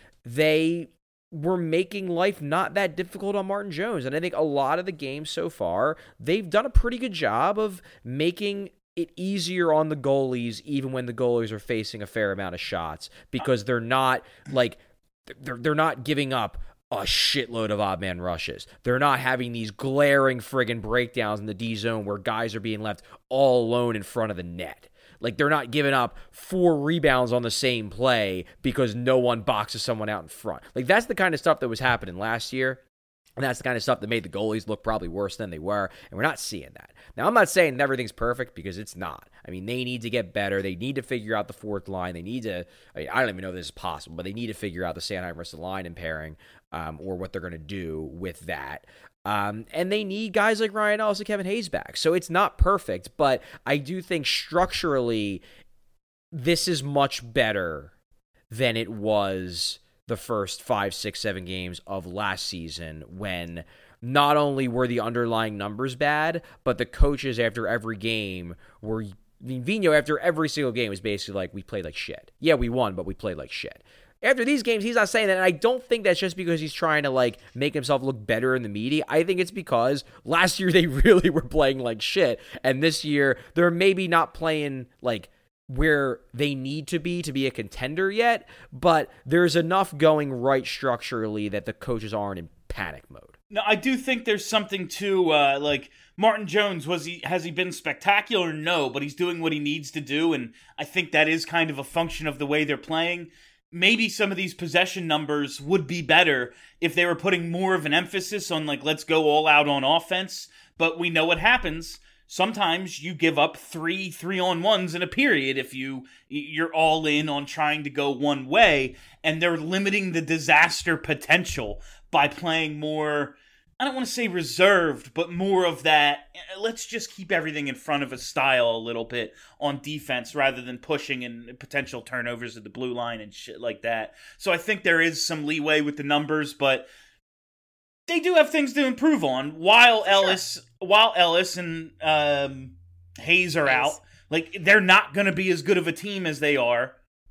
they were making life not that difficult on Martin Jones. And I think a lot of the games so far, they've done a pretty good job of making it easier on the goalies, even when the goalies are facing a fair amount of shots, because they're not they're not giving up a shitload of odd man rushes. They're not having these glaring friggin' breakdowns in the D zone where guys are being left all alone in front of the net. Like, they're not giving up 4 rebounds on the same play because no one boxes someone out in front. Like, that's the kind of stuff that was happening last year. And that's the kind of stuff that made the goalies look probably worse than they were. And we're not seeing that. Now, I'm not saying everything's perfect, because it's not. I mean, they need to get better. They need to figure out the fourth line. They need to, I don't even know if this is possible, but they need to figure out the Sanheim-Ristolainen pairing, or what they're going to do with that. And they need guys like Ryan Ellis and Kevin Hayes back. So it's not perfect, but I do think structurally this is much better than it was the first 5, 6, 7 games of last season, when not only were the underlying numbers bad, but the coaches after every game were, I mean, Vigneault after every single game was basically like, we played like shit. Yeah, we won, but we played like shit. After these games, he's not saying that, and I don't think that's just because he's trying to, make himself look better in the media. I think it's because last year they really were playing like shit, and this year they're maybe not playing, where they need to be a contender yet, but there's enough going right structurally that the coaches aren't in panic mode. No, I do think there's something to, Martin Jones, has he been spectacular? No, but he's doing what he needs to do, and I think that is kind of a function of the way they're playing. Maybe some of these possession numbers would be better if they were putting more of an emphasis on, let's go all out on offense, but we know what happens. Sometimes you give up 3 3-on-1s in a period if you're all in on trying to go one way, and they're limiting the disaster potential by playing more, I don't want to say reserved, but more of that, let's just keep everything in front of a style a little bit on defense rather than pushing and potential turnovers at the blue line and shit like that. So I think there is some leeway with the numbers, but they do have things to improve on while Ellis and Hayes are out. They're not going to be as good of a team as they are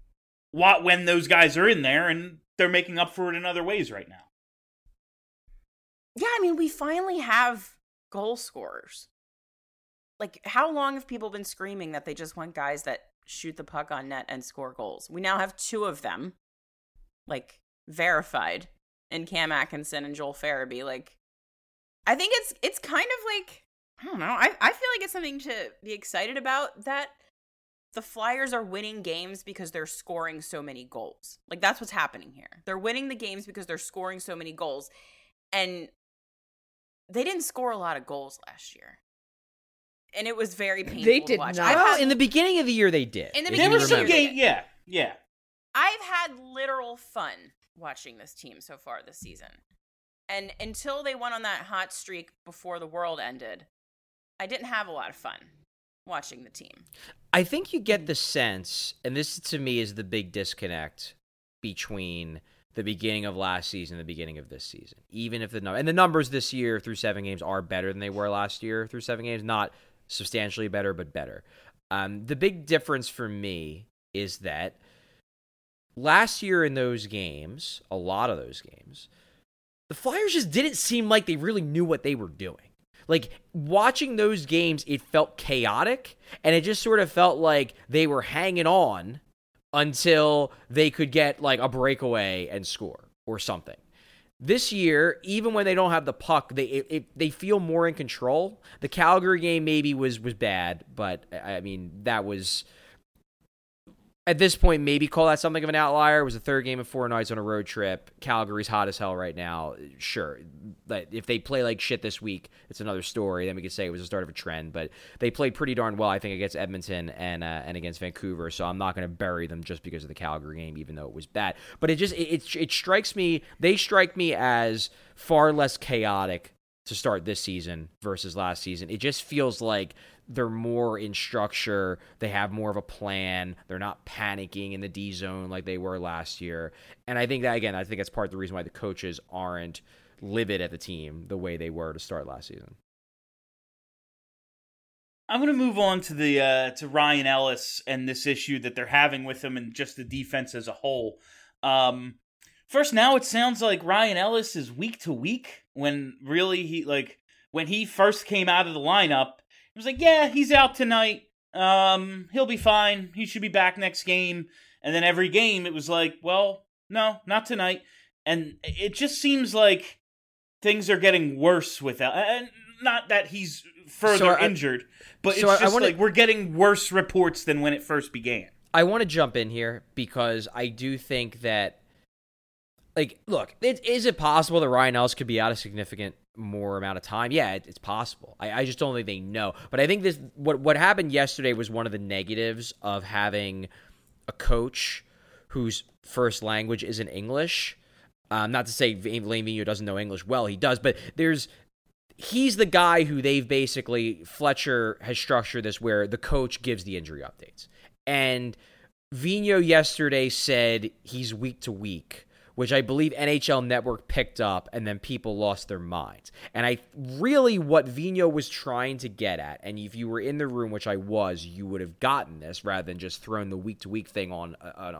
when those guys are in there, and they're making up for it in other ways right now. Yeah, I mean, we finally have goal scorers. How long have people been screaming that they just want guys that shoot the puck on net and score goals? We now have 2 of them, verified, in Cam Atkinson and Joel Farabee. I think it's kind of I don't know. I feel like it's something to be excited about, that the Flyers are winning games because they're scoring so many goals. That's what's happening here. They're winning the games because they're scoring so many goals. And they didn't score a lot of goals last year. And it was very painful They to did watch. not. In the beginning of the year, they did. In the if beginning you There was of the some year. game, yeah. I've had literal fun watching this team so far this season. And until they went on that hot streak before the world ended, I didn't have a lot of fun watching the team. I think you get the sense, and this to me is the big disconnect between the beginning of last season and the beginning of this season. Even if the numbers this year through 7 games are better than they were last year through 7 games, not substantially better, but better. The big difference for me is that last year in those games, a lot of those games, the Flyers just didn't seem like they really knew what they were doing. Watching those games, it felt chaotic, and it just sort of felt like they were hanging on until they could get a breakaway and score or something. This year, even when they don't have the puck, they feel more in control. The Calgary game maybe was bad, but I mean that was at this point, maybe call that something of an outlier. It was the third game of 4 nights on a road trip. Calgary's hot as hell right now. Sure, but if they play like shit this week, it's another story. Then we could say it was the start of a trend. But they played pretty darn well, I think, against Edmonton and against Vancouver. So I'm not going to bury them just because of the Calgary game, even though it was bad. But it strikes me. They strike me as far less chaotic to start this season versus last season. It just feels like they're more in structure. They have more of a plan. They're not panicking in the D zone like they were last year. And I think that's part of the reason why the coaches aren't livid at the team the way they were to start last season. I'm going to move on to the to Ryan Ellis and this issue that they're having with him and just the defense as a whole. First, now it sounds like Ryan Ellis is week to week when really when he first came out of the lineup, it was like, yeah, he's out tonight. He'll be fine. He should be back next game. And then every game, it was like, well, no, not tonight. And it just seems like things are getting worse without. And not that he's further injured, but it's just like we're getting worse reports than when it first began. I want to jump in here because I do think that, look, is it possible that Ryan Ellis could be out a significant more amount of time? Yeah, it's possible. I just don't think they know. But I think this what happened yesterday was one of the negatives of having a coach whose first language isn't English. Not to say Alain Vigneault doesn't know English well, he does, but he's the guy who Fletcher has structured this where the coach gives the injury updates. And Vigneault yesterday said he's week to week, which I believe NHL Network picked up, and then people lost their minds. And what Vigneault was trying to get at, and if you were in the room, which I was, you would have gotten this rather than just thrown the week-to-week thing on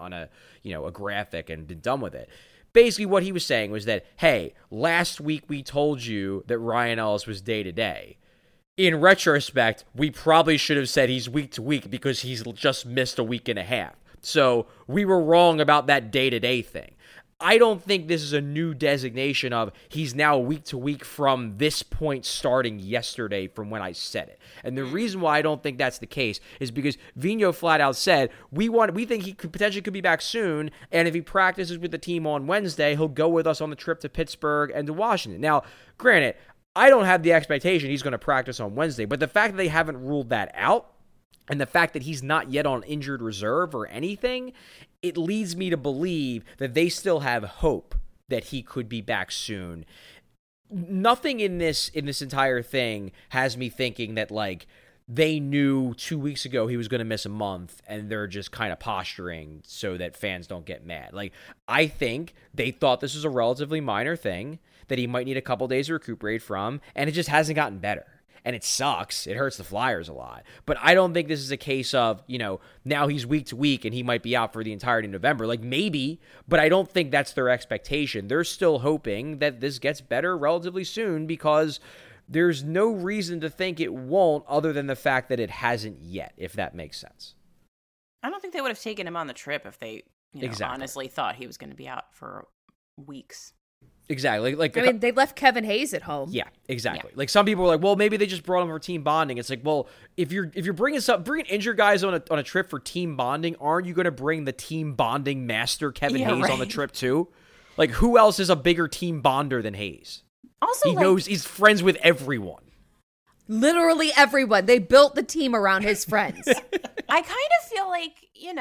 a graphic and been done with it. Basically, what he was saying was that, hey, last week we told you that Ryan Ellis was day-to-day. In retrospect, we probably should have said he's week-to-week because he's just missed a week and a half. So we were wrong about that day-to-day thing. I don't think this is a new designation of he's now week to week from this point starting yesterday from when I said it. And the reason why I don't think that's the case is because Vigneault flat out said, we think he could be back soon, and if he practices with the team on Wednesday, he'll go with us on the trip to Pittsburgh and to Washington. Now, granted, I don't have the expectation he's going to practice on Wednesday, but the fact that they haven't ruled that out, and the fact that he's not yet on injured reserve or anything, it leads me to believe that they still have hope that he could be back soon. Nothing in this entire thing has me thinking that they knew 2 weeks ago he was going to miss a month and they're just kind of posturing so that fans don't get mad. I think they thought this was a relatively minor thing that he might need a couple days to recuperate from, and it just hasn't gotten better. And it sucks. It hurts the Flyers a lot. But I don't think this is a case of, now he's week to week and he might be out for the entirety of November. Maybe, but I don't think that's their expectation. They're still hoping that this gets better relatively soon because there's no reason to think it won't other than the fact that it hasn't yet, if that makes sense. I don't think they would have taken him on the trip if they honestly thought he was going to be out for weeks. Exactly. They left Kevin Hayes at home. Yeah, exactly. Yeah. Some people were like, well, maybe they just brought him for team bonding. It's well, if you're bringing injured guys on a trip for team bonding, aren't you going to bring the team bonding master Kevin Hayes on the trip too? Who else is a bigger team bonder than Hayes? Also, he knows he's friends with everyone. Literally everyone. They built the team around his friends. I kind of feel like,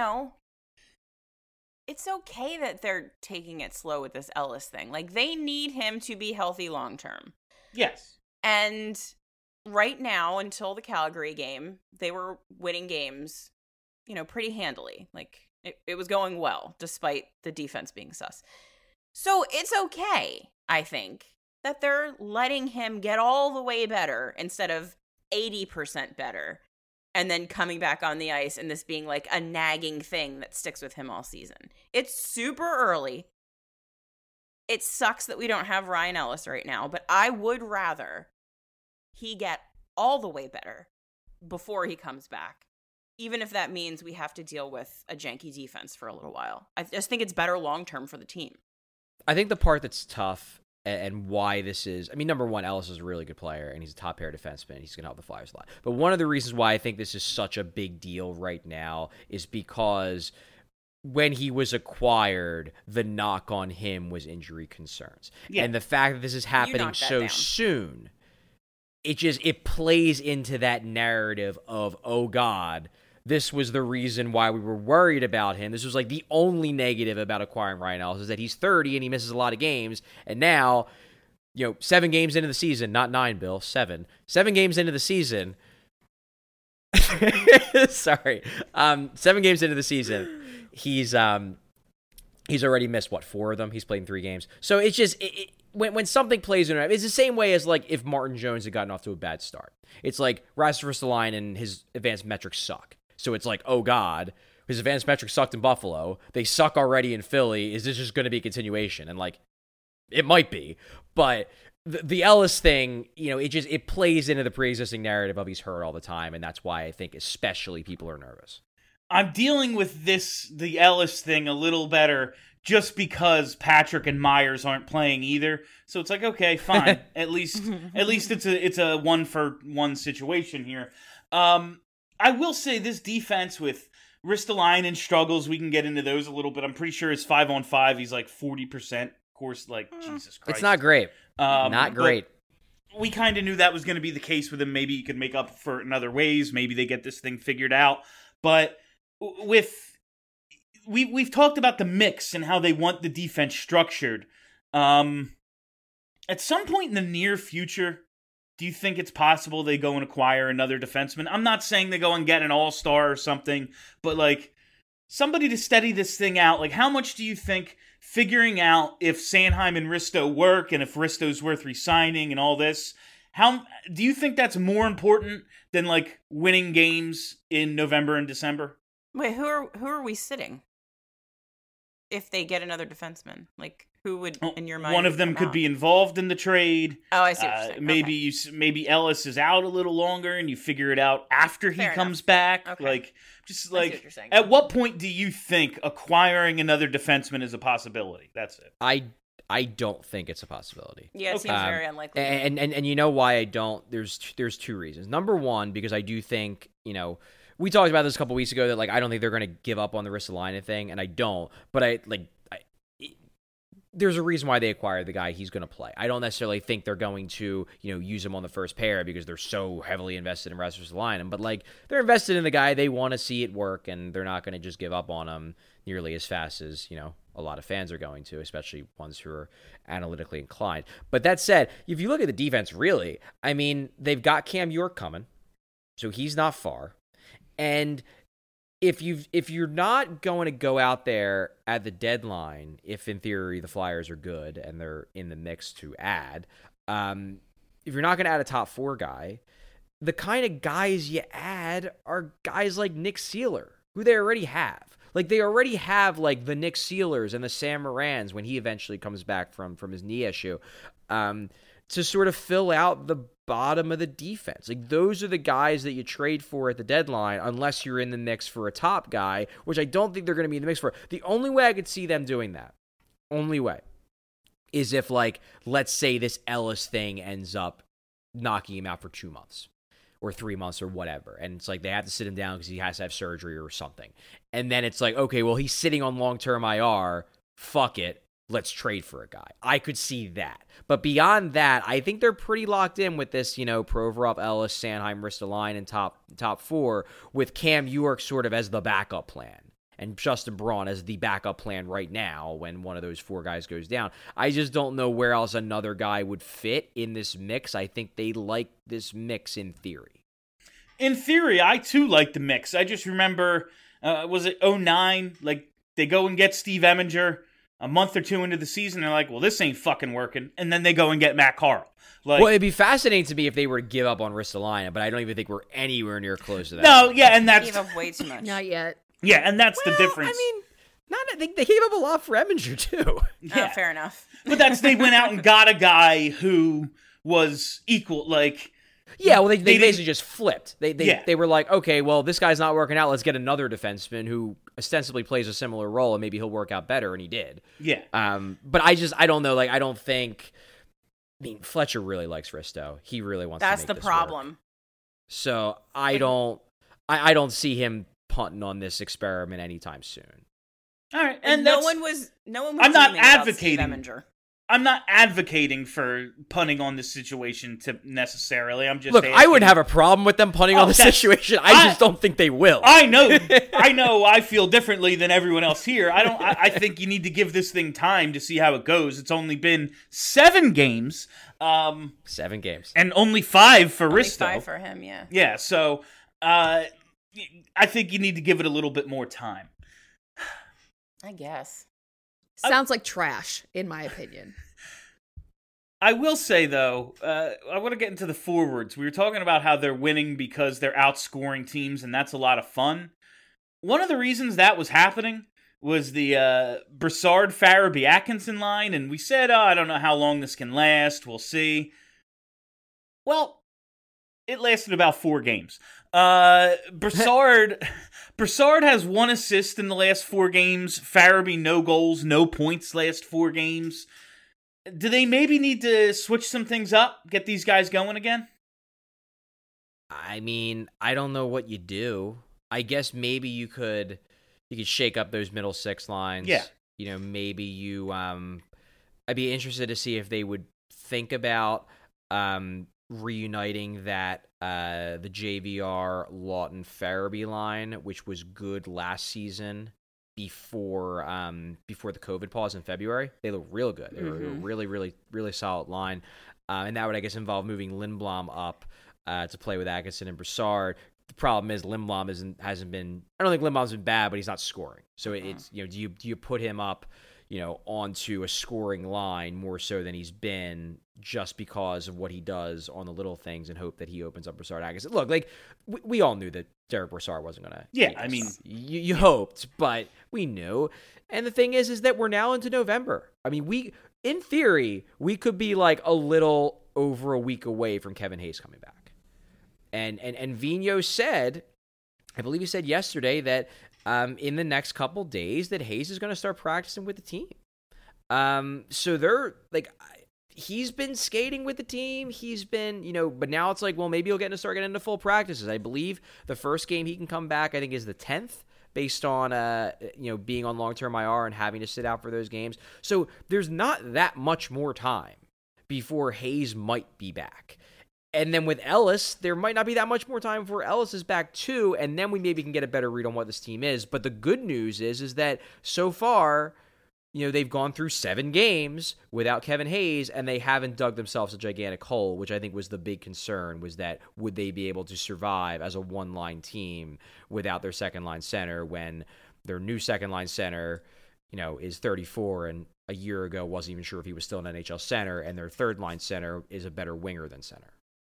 it's okay that they're taking it slow with this Ellis thing. They need him to be healthy long term. Yes. And right now, until the Calgary game, they were winning games, pretty handily. It was going well, despite the defense being sus. So it's okay, I think, that they're letting him get all the way better instead of 80% better. And then coming back on the ice and this being a nagging thing that sticks with him all season. It's super early. It sucks that we don't have Ryan Ellis right now, but I would rather he get all the way better before he comes back, even if that means we have to deal with a janky defense for a little while. I just think it's better long-term for the team. I think the part that's tough and why this is, number one, Ellis is a really good player, and he's a top-pair defenseman. He's going to help the Flyers a lot. But one of the reasons why I think this is such a big deal right now is because when he was acquired, the knock on him was injury concerns. Yeah. And the fact that this is happening knocked that so down. soon, it plays into that narrative of, oh God, this was the reason why we were worried about him. This was like the only negative about acquiring Ryan Ellis is that he's 30 and he misses a lot of games. And now, 7 games into the season, not 9, Bill, 7. 7 games into the season. Sorry. 7 games into the season, he's already missed, 4 of them? He's played in 3 games. So it's just, when something plays in it, it's the same way as like if Martin Jones had gotten off to a bad start. It's like Rasmus Ristolainen and his advanced metrics suck. So it's like, oh God, his advanced metrics sucked in Buffalo. They suck already in Philly. Is this just going to be a continuation? And like, it might be. But the Ellis thing, it plays into the pre-existing narrative of he's hurt all the time. And that's why I think especially people are nervous. I'm dealing with the Ellis thing a little better just because Patrick and Myers aren't playing either. So it's like, okay, fine. At least it's a 1-for-1 situation here. I will say this defense with Ristolainen struggles, we can get into those a little bit. I'm pretty sure his 5-on-5, he's like 40%. Of course, like, Jesus Christ. It's not great. Not great. We kind of knew that was going to be the case with him. Maybe he could make up for it in other ways. Maybe they get this thing figured out. But we've talked about the mix and how they want the defense structured. At some point in the near future, do you think it's possible they go and acquire another defenseman? I'm not saying they go and get an all-star or something, but like somebody to steady this thing out. Like, how much do you think figuring out if Sanheim and Risto work and if Risto's worth re-signing and all this, how do you think that's more important than like winning games in November and December? Wait, who are we sitting? If they get another defenseman, like who would in your mind? One of them could be involved in the trade. Oh, I see what you're saying. Maybe maybe Ellis is out a little longer, and you figure it out after he comes back. Okay. Like, just I see what like you're saying. at what point do you think acquiring another defenseman is a possibility? That's it. I don't think it's a possibility. Yeah, it seems very unlikely. And you know why I don't? There's 2 reasons. Number one, because I do think, we talked about this a couple weeks ago that like I don't think they're going to give up on the Ristolainen thing, and I don't. But there's a reason why they acquired the guy. He's going to play. I don't necessarily think they're going to use him on the first pair because they're so heavily invested in Rasmus Ristolainen. But like they're invested in the guy. They want to see it work, and they're not going to just give up on him nearly as fast as a lot of fans are going to, especially ones who are analytically inclined. But that said, if you look at the defense, really, I mean, they've got Cam York coming, so he's not far. And if you're not going to go out there at the deadline, if in theory the Flyers are good and they're in the mix to add, if you're not going to add a top 4 guy, the kind of guys you add are guys like Nick Seeler, who they already have. Like, they already have, like, the Nick Sealers and the Sam Morans when he eventually comes back from his knee issue, to sort of fill out the bottom of the defense. Like, those are the guys that you trade for at the deadline, unless you're in the mix for a top guy, which I don't think they're going to be in the mix for. The only way I could see them doing that, is if, like, let's say this Ellis thing ends up knocking him out for 2 months. Or 3 months or whatever. And it's like they have to sit him down because he has to have surgery or something. And then it's like, okay, well, he's sitting on long-term IR. Fuck it. Let's trade for a guy. I could see that. But beyond that, I think they're pretty locked in with this, Provorov, Ellis, Sanheim, Ristolainen top 4 with Cam York sort of as the backup plan. And Justin Braun as the backup plan right now when one of those 4 guys goes down. I just don't know where else another guy would fit in this mix. I think they like this mix in theory. In theory, I too like the mix. I just remember, was it 2009? Like, they go and get Steve Eminger a month or 2 into the season. They're like, well, this ain't fucking working. And then they go and get Matt Carl. Like, well, it'd be fascinating to me if they were to give up on Ristolainen, but I don't even think we're anywhere near close to that. No, yeah, and that's... Gave up way too much. Not yet. Yeah, and that's the difference. I mean, they gave up a lot for Eminger, too. Yeah. Oh, fair enough. But they went out and got a guy who was equal, like... Yeah, well, they basically just flipped. They Yeah. were like, okay, well, this guy's not working out. Let's get another defenseman who ostensibly plays a similar role, and maybe he'll work out better, and he did. Yeah. But I don't know. Like, I don't think... I mean, Fletcher really likes Risto. He really wants to make That's the this problem. work. So I don't see him punting on this experiment anytime soon. All right, And and no that's- one was I'm not dreaming about Steve advocating. Eminger. I'm not advocating for punting on this situation to necessarily. I'm just Look, I asking- wouldn't have a problem with them punting on the that's- situation. I just don't think they will. I know. I feel differently than everyone else here. I think you need to give this thing time to see how it goes. It's only been 7 games. 7 games. And only 5 for Only Risto. 5 for him, yeah. Yeah, so I think you need to give it a little bit more time. I guess. Sounds like trash, in my opinion. I will say, though, I want to get into the forwards. We were talking about how they're winning because they're outscoring teams, and that's a lot of fun. One of the reasons that was happening was the Brassard, Farabee, Atkinson line, and we said, I don't know how long this can last. We'll see. Well, it lasted about 4 games. Brassard has 1 assist in the last 4 games. Farabee, no goals, no points last 4 games. Do they maybe need to switch some things up, get these guys going again? I mean, I don't know what you do. I guess maybe you could shake up those middle 6 lines. Yeah. You know, maybe you I'd be interested to see if they would think about reuniting that the JVR Lawton Farabee line, which was good last season before the COVID pause in February. They look real good. They were a really, really, really solid line. And that would, I guess, involve moving Lindblom up to play with Atkinson and Brassard. The problem is Lindblom hasn't been. I don't think Lindblom's been bad, but he's not scoring. So it's do you put him up, onto a scoring line more so than he's been just because of what he does on the little things and hope that he opens up Brassard Atkinson. Look, like we all knew that Derek Brassard wasn't going to. Yeah, I mean, you hoped, but we knew. And the thing is that we're now into November. I mean, in theory, we could be like a little over a week away from Kevin Hayes coming back. And Vigneault said, I believe he said yesterday that in the next couple days that Hayes is going to start practicing with the team. So they're like, he's been skating with the team. He's been, but now it's like, well, maybe he'll start getting into full practices. I believe the first game he can come back, I think, is the 10th, based on being on long-term IR and having to sit out for those games. So there's not that much more time before Hayes might be back. And then with Ellis, there might not be that much more time before Ellis is back too, and then we maybe can get a better read on what this team is. But the good news is that so far, they've gone through 7 games without Kevin Hayes, and they haven't dug themselves a gigantic hole, which I think was the big concern, was that would they be able to survive as a one-line team without their second-line center when their new second-line center, is 34 and a year ago wasn't even sure if he was still an NHL center, and their third-line center is a better winger than center.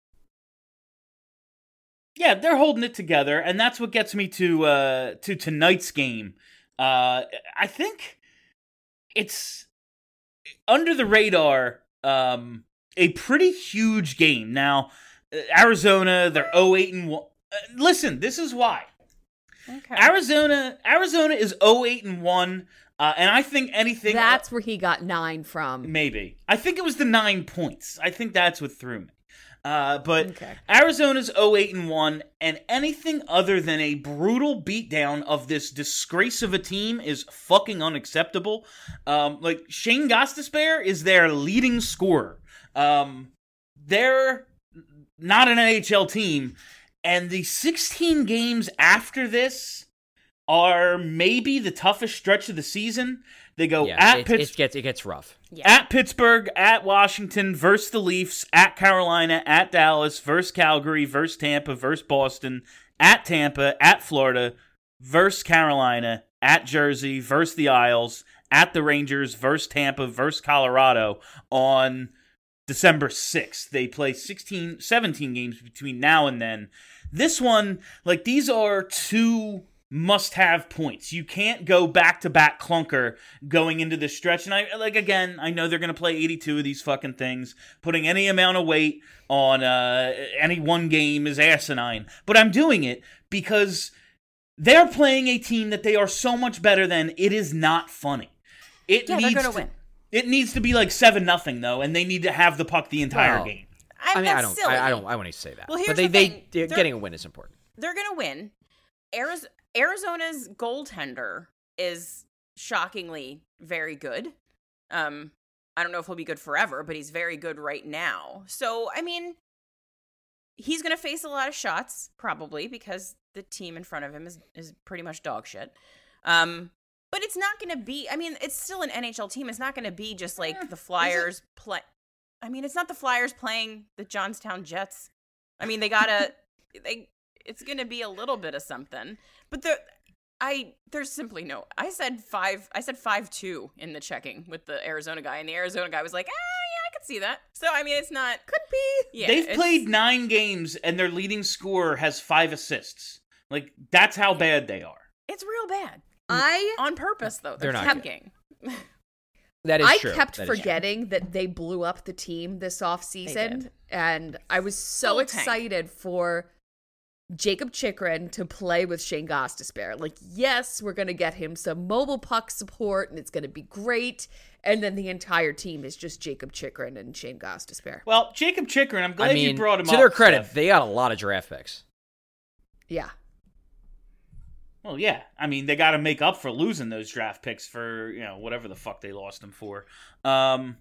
Yeah, they're holding it together, and that's what gets me to tonight's game. I think it's under the radar, a pretty huge game. Now, Arizona, they're 0-8-1. Listen, this is why. Okay. Arizona is 0-8-1, and I think anything. That's where he got 9 from. Maybe. I think it was the 9 points. I think that's what threw me. But Okay. Arizona's 0-8-1, and anything other than a brutal beatdown of this disgrace of a team is fucking unacceptable. Like, Shane Gostisbehere is their leading scorer. They're not an NHL team, and the 16 games after this are maybe the toughest stretch of the season. They go at Pittsburgh. It gets rough. At Pittsburgh, at Washington, versus the Leafs, at Carolina, at Dallas, versus Calgary, versus Tampa, versus Boston, at Tampa, at Florida, versus Carolina, at Jersey, versus the Isles, at the Rangers, versus Tampa, versus Colorado on December 6th. They play 17 games between now and then. This one, like, these are 2 must-have points. You can't go back-to-back clunker going into this stretch. And I know they're going to play 82 of these fucking things. Putting any amount of weight on any one game is asinine. But I'm doing it because they're playing a team that they are so much better than. It is not funny. They're going to win. It needs to be like 7-0 though, and they need to have the puck the entire game. I That's silly. I want to say that. Well, here's but the thing. getting a win is important. They're going to win. Arizona's goaltender is shockingly very good. I don't know if he'll be good forever, but he's very good right now. So, I mean, he's going to face a lot of shots, probably, because the team in front of him is pretty much dog shit. But it's not going to be, I mean, it's still an NHL team. It's not going to be just like the Flyers play. I mean, it's not the Flyers playing the Johnstown Jets. I mean, it's going to be a little bit of something. But there's simply no, I said 5-2 in the checking with the Arizona guy. And the Arizona guy was like, yeah, I could see that. So, I mean, it's not, could be. Yeah, they've played 9 games and their leading scorer has 5 assists. Like, that's how bad they are. It's real bad. On purpose, though. They're not tanking. That is I true. kept That is forgetting that they blew up the team this offseason, did. and I was so Full tank. excited for Jacob Chikrin to play with Shane Gostisbehere. Like, yes, we're going to get him some mobile puck support, and it's going to be great. And then the entire team is just Jacob Chikrin and Shane Gostisbehere. Well, Jacob Chikrin, I'm glad you brought him up. To their credit, Steph. they got a lot of draft picks. Yeah. Well, yeah. I mean, they got to make up for losing those draft picks for, whatever the fuck they lost them for. A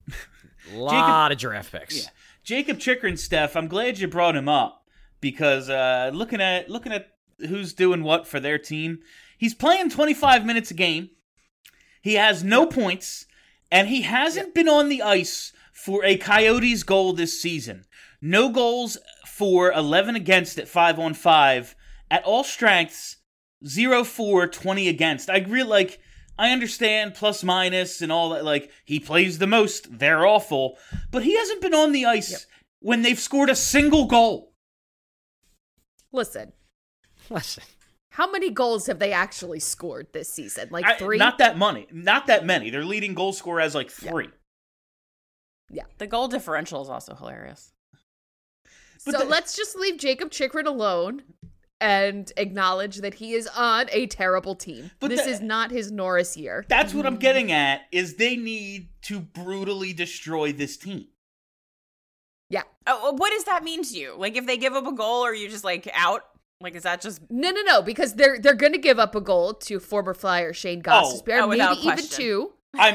lot of draft picks. Yeah. Jacob Chikrin, Steph, I'm glad you brought him up because looking at who's doing what for their team, he's playing 25 minutes a game. He has no points, and he hasn't been on the ice for a Coyotes goal this season. No goals for 11 against at 5-on-5 at all strengths. 0-4, 20 against. I understand plus minus and all that. Like, he plays the most. They're awful. But he hasn't been on the ice when they've scored a single goal. Listen. How many goals have they actually scored this season? Like 3? Not that many. Their leading goal scorer has 3. Yeah. The goal differential is also hilarious. So let's just leave Jacob Chikrin alone and acknowledge that he is on a terrible team. But this is not his Norris year. That's what I'm getting at, is they need to brutally destroy this team. Yeah. Oh, what does that mean to you? Like, if they give up a goal, are you just, out? Like, is that just... No, because they're going to give up a goal to former Flyer Shane Gostisbehere, maybe even 2. I'm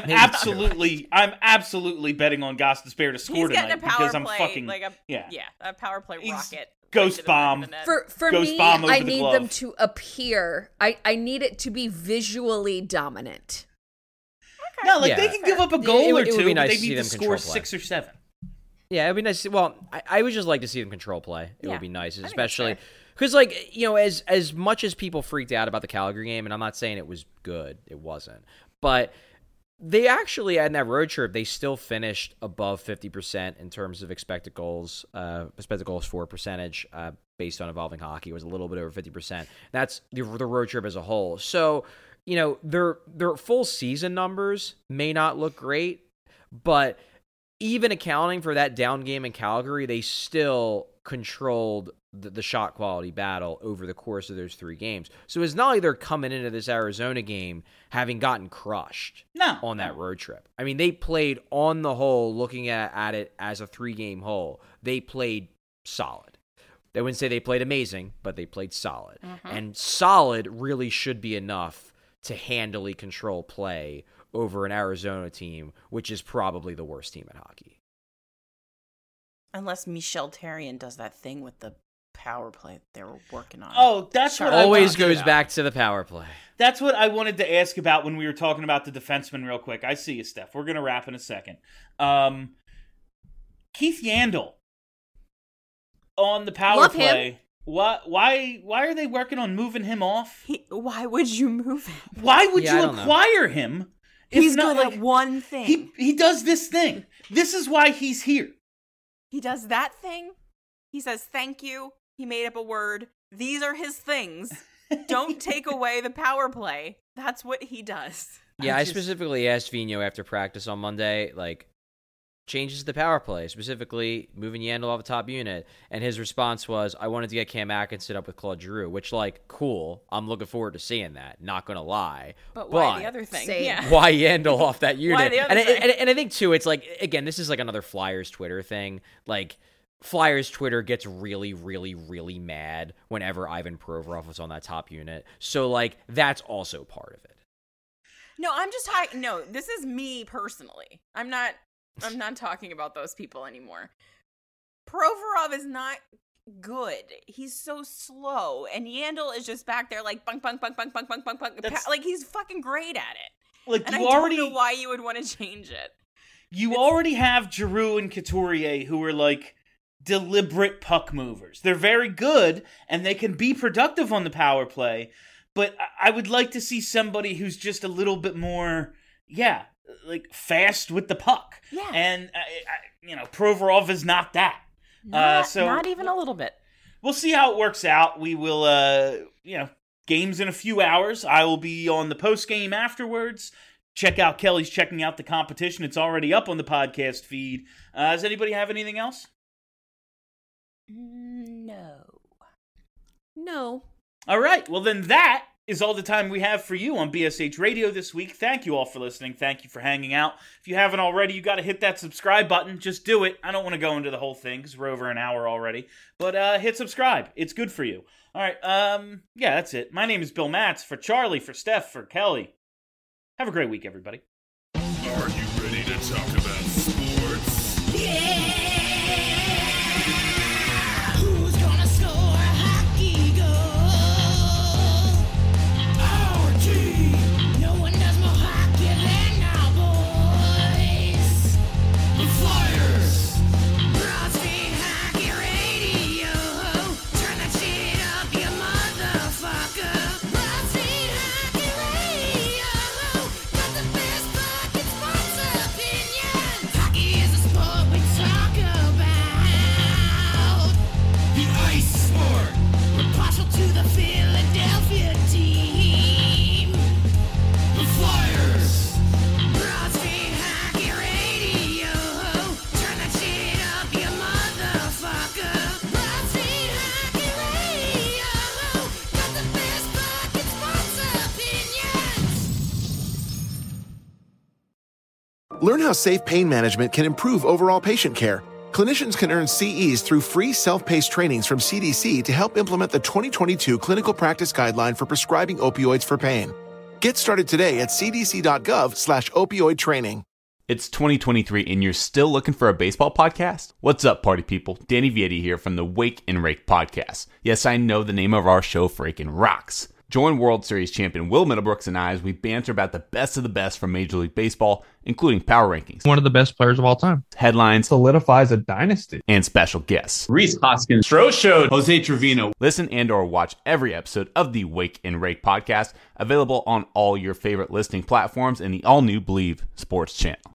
absolutely betting on Gostisbehere to score tonight because I'm fucking... a power play rocket. Ghost bomb. For Ghost me, bomb over I the need glove. them to appear. I need it to be visually dominant. Okay. No, they can give up a goal or it would two, be but nice they to see need to them score control play. 6 or 7. Yeah, it'd be nice. Well, I would just like to see them control play. It would be nice, that's especially fair. because, as much as people freaked out about the Calgary game, and I'm not saying it was good, it wasn't, but they actually, in that road trip, they still finished above 50% in terms of expected goals for percentage based on Evolving Hockey. It was a little bit over 50%. That's the road trip as a whole. So, their full season numbers may not look great, but even accounting for that down game in Calgary, they still controlled the shot quality battle over the course of those 3 games. So it's not like they're coming into this Arizona game having gotten crushed on that road trip. I mean, they played on the whole, looking at it as a 3-game whole, they played solid. They wouldn't say they played amazing, but they played solid. And solid really should be enough to handily control play over an Arizona team, which is probably the worst team in hockey. Unless Michel Therrien does that thing with the power play they were working on. Oh, that's what always goes back to the power play. That's what I wanted to ask about when we were talking about the defenseman real quick. I see you, Steph. We're going to wrap in a second. Keith Yandel on the power Love play. him. Why are they working on moving him off? Why would you move him? Why would Yeah, I you don't know. acquire him? if He's not, good at one thing. He does this thing. This is why he's here. He does that thing. He says thank you. He made up a word. These are his things. Don't take away the power play. That's what he does. Yeah, I specifically asked Vino after practice on Monday, changes to the power play, specifically moving Yandel off the top unit. And his response was, I wanted to get Cam Atkinson up with Claude Giroux, which, cool. I'm looking forward to seeing that. Not going to lie. But why the other thing? Same. Yeah. Why Yandel off that unit? Why the other thing? And I think, too, it's again, this is another Flyers Twitter thing. Flyers Twitter gets really, really, really mad whenever Ivan Provorov was on that top unit. So, that's also part of it. No, I'm just talking. No, this is me personally. I'm not talking about those people anymore. Provorov is not good. He's so slow, and Yandel is just back there like bunk, bunk, bunk, bunk, bunk, bunk, bunk, bunk. Like he's fucking great at it. Like and you I already don't know why you would want to change it. You already have Giroux and Couturier who are like deliberate puck movers. They're very good and they can be productive on the power play, but I would like to see somebody who's just a little bit more, like fast with the puck. Yeah. And Provorov is not that. Not even a little bit. We'll see how it works out. We will, games in a few hours. I will be on the post game afterwards. Check out Kelly's checking out the competition. It's already up on the podcast feed. Does anybody have anything else? No. All right. Well, then that is all the time we have for you on BSH Radio this week. Thank you all for listening. Thank you for hanging out. If you haven't already, you got to hit that subscribe button. Just do it. I don't want to go into the whole thing because we're over an hour already. But hit subscribe. It's good for you. All right. That's it. My name is Bill Matz. For Charlie, for Steph, for Kelly. Have a great week, everybody. Are you ready to talk about sports? Yeah! Who's gonna score a hockey goal? Our team! No one does more hockey than our boys! The Flyers! Broad Street Hockey Radio! Turn that shit up, you motherfucker! Broad Street Hockey Radio! Got the best fucking sports opinions! Hockey is a sport we talk about! The ice sport! We're partial to the Philadelphia team! The Flyers! Broad Street Hockey Radio! Turn that shit up, you motherfucker! Broad Street Hockey Radio! Got the best fucking sports opinions! Learn how safe pain management can improve overall patient care. Clinicians can earn CEs through free self-paced trainings from CDC to help implement the 2022 Clinical Practice Guideline for prescribing opioids for pain. Get started today at cdc.gov/opioid training. It's 2023 and you're still looking for a baseball podcast? What's up, party people? Danny Vietti here from the Wake and Rake podcast. Yes, I know the name of our show freaking rocks. Join World Series champion Will Middlebrooks and I as we banter about the best of the best from Major League Baseball, including power rankings, one of the best players of all time, headlines, solidifies a dynasty, and special guests. Rhys Hoskins, Stro Show, Jose Trevino. Listen and or watch every episode of the Wake and Rake podcast, available on all your favorite listening platforms and the all-new Believe Sports channel.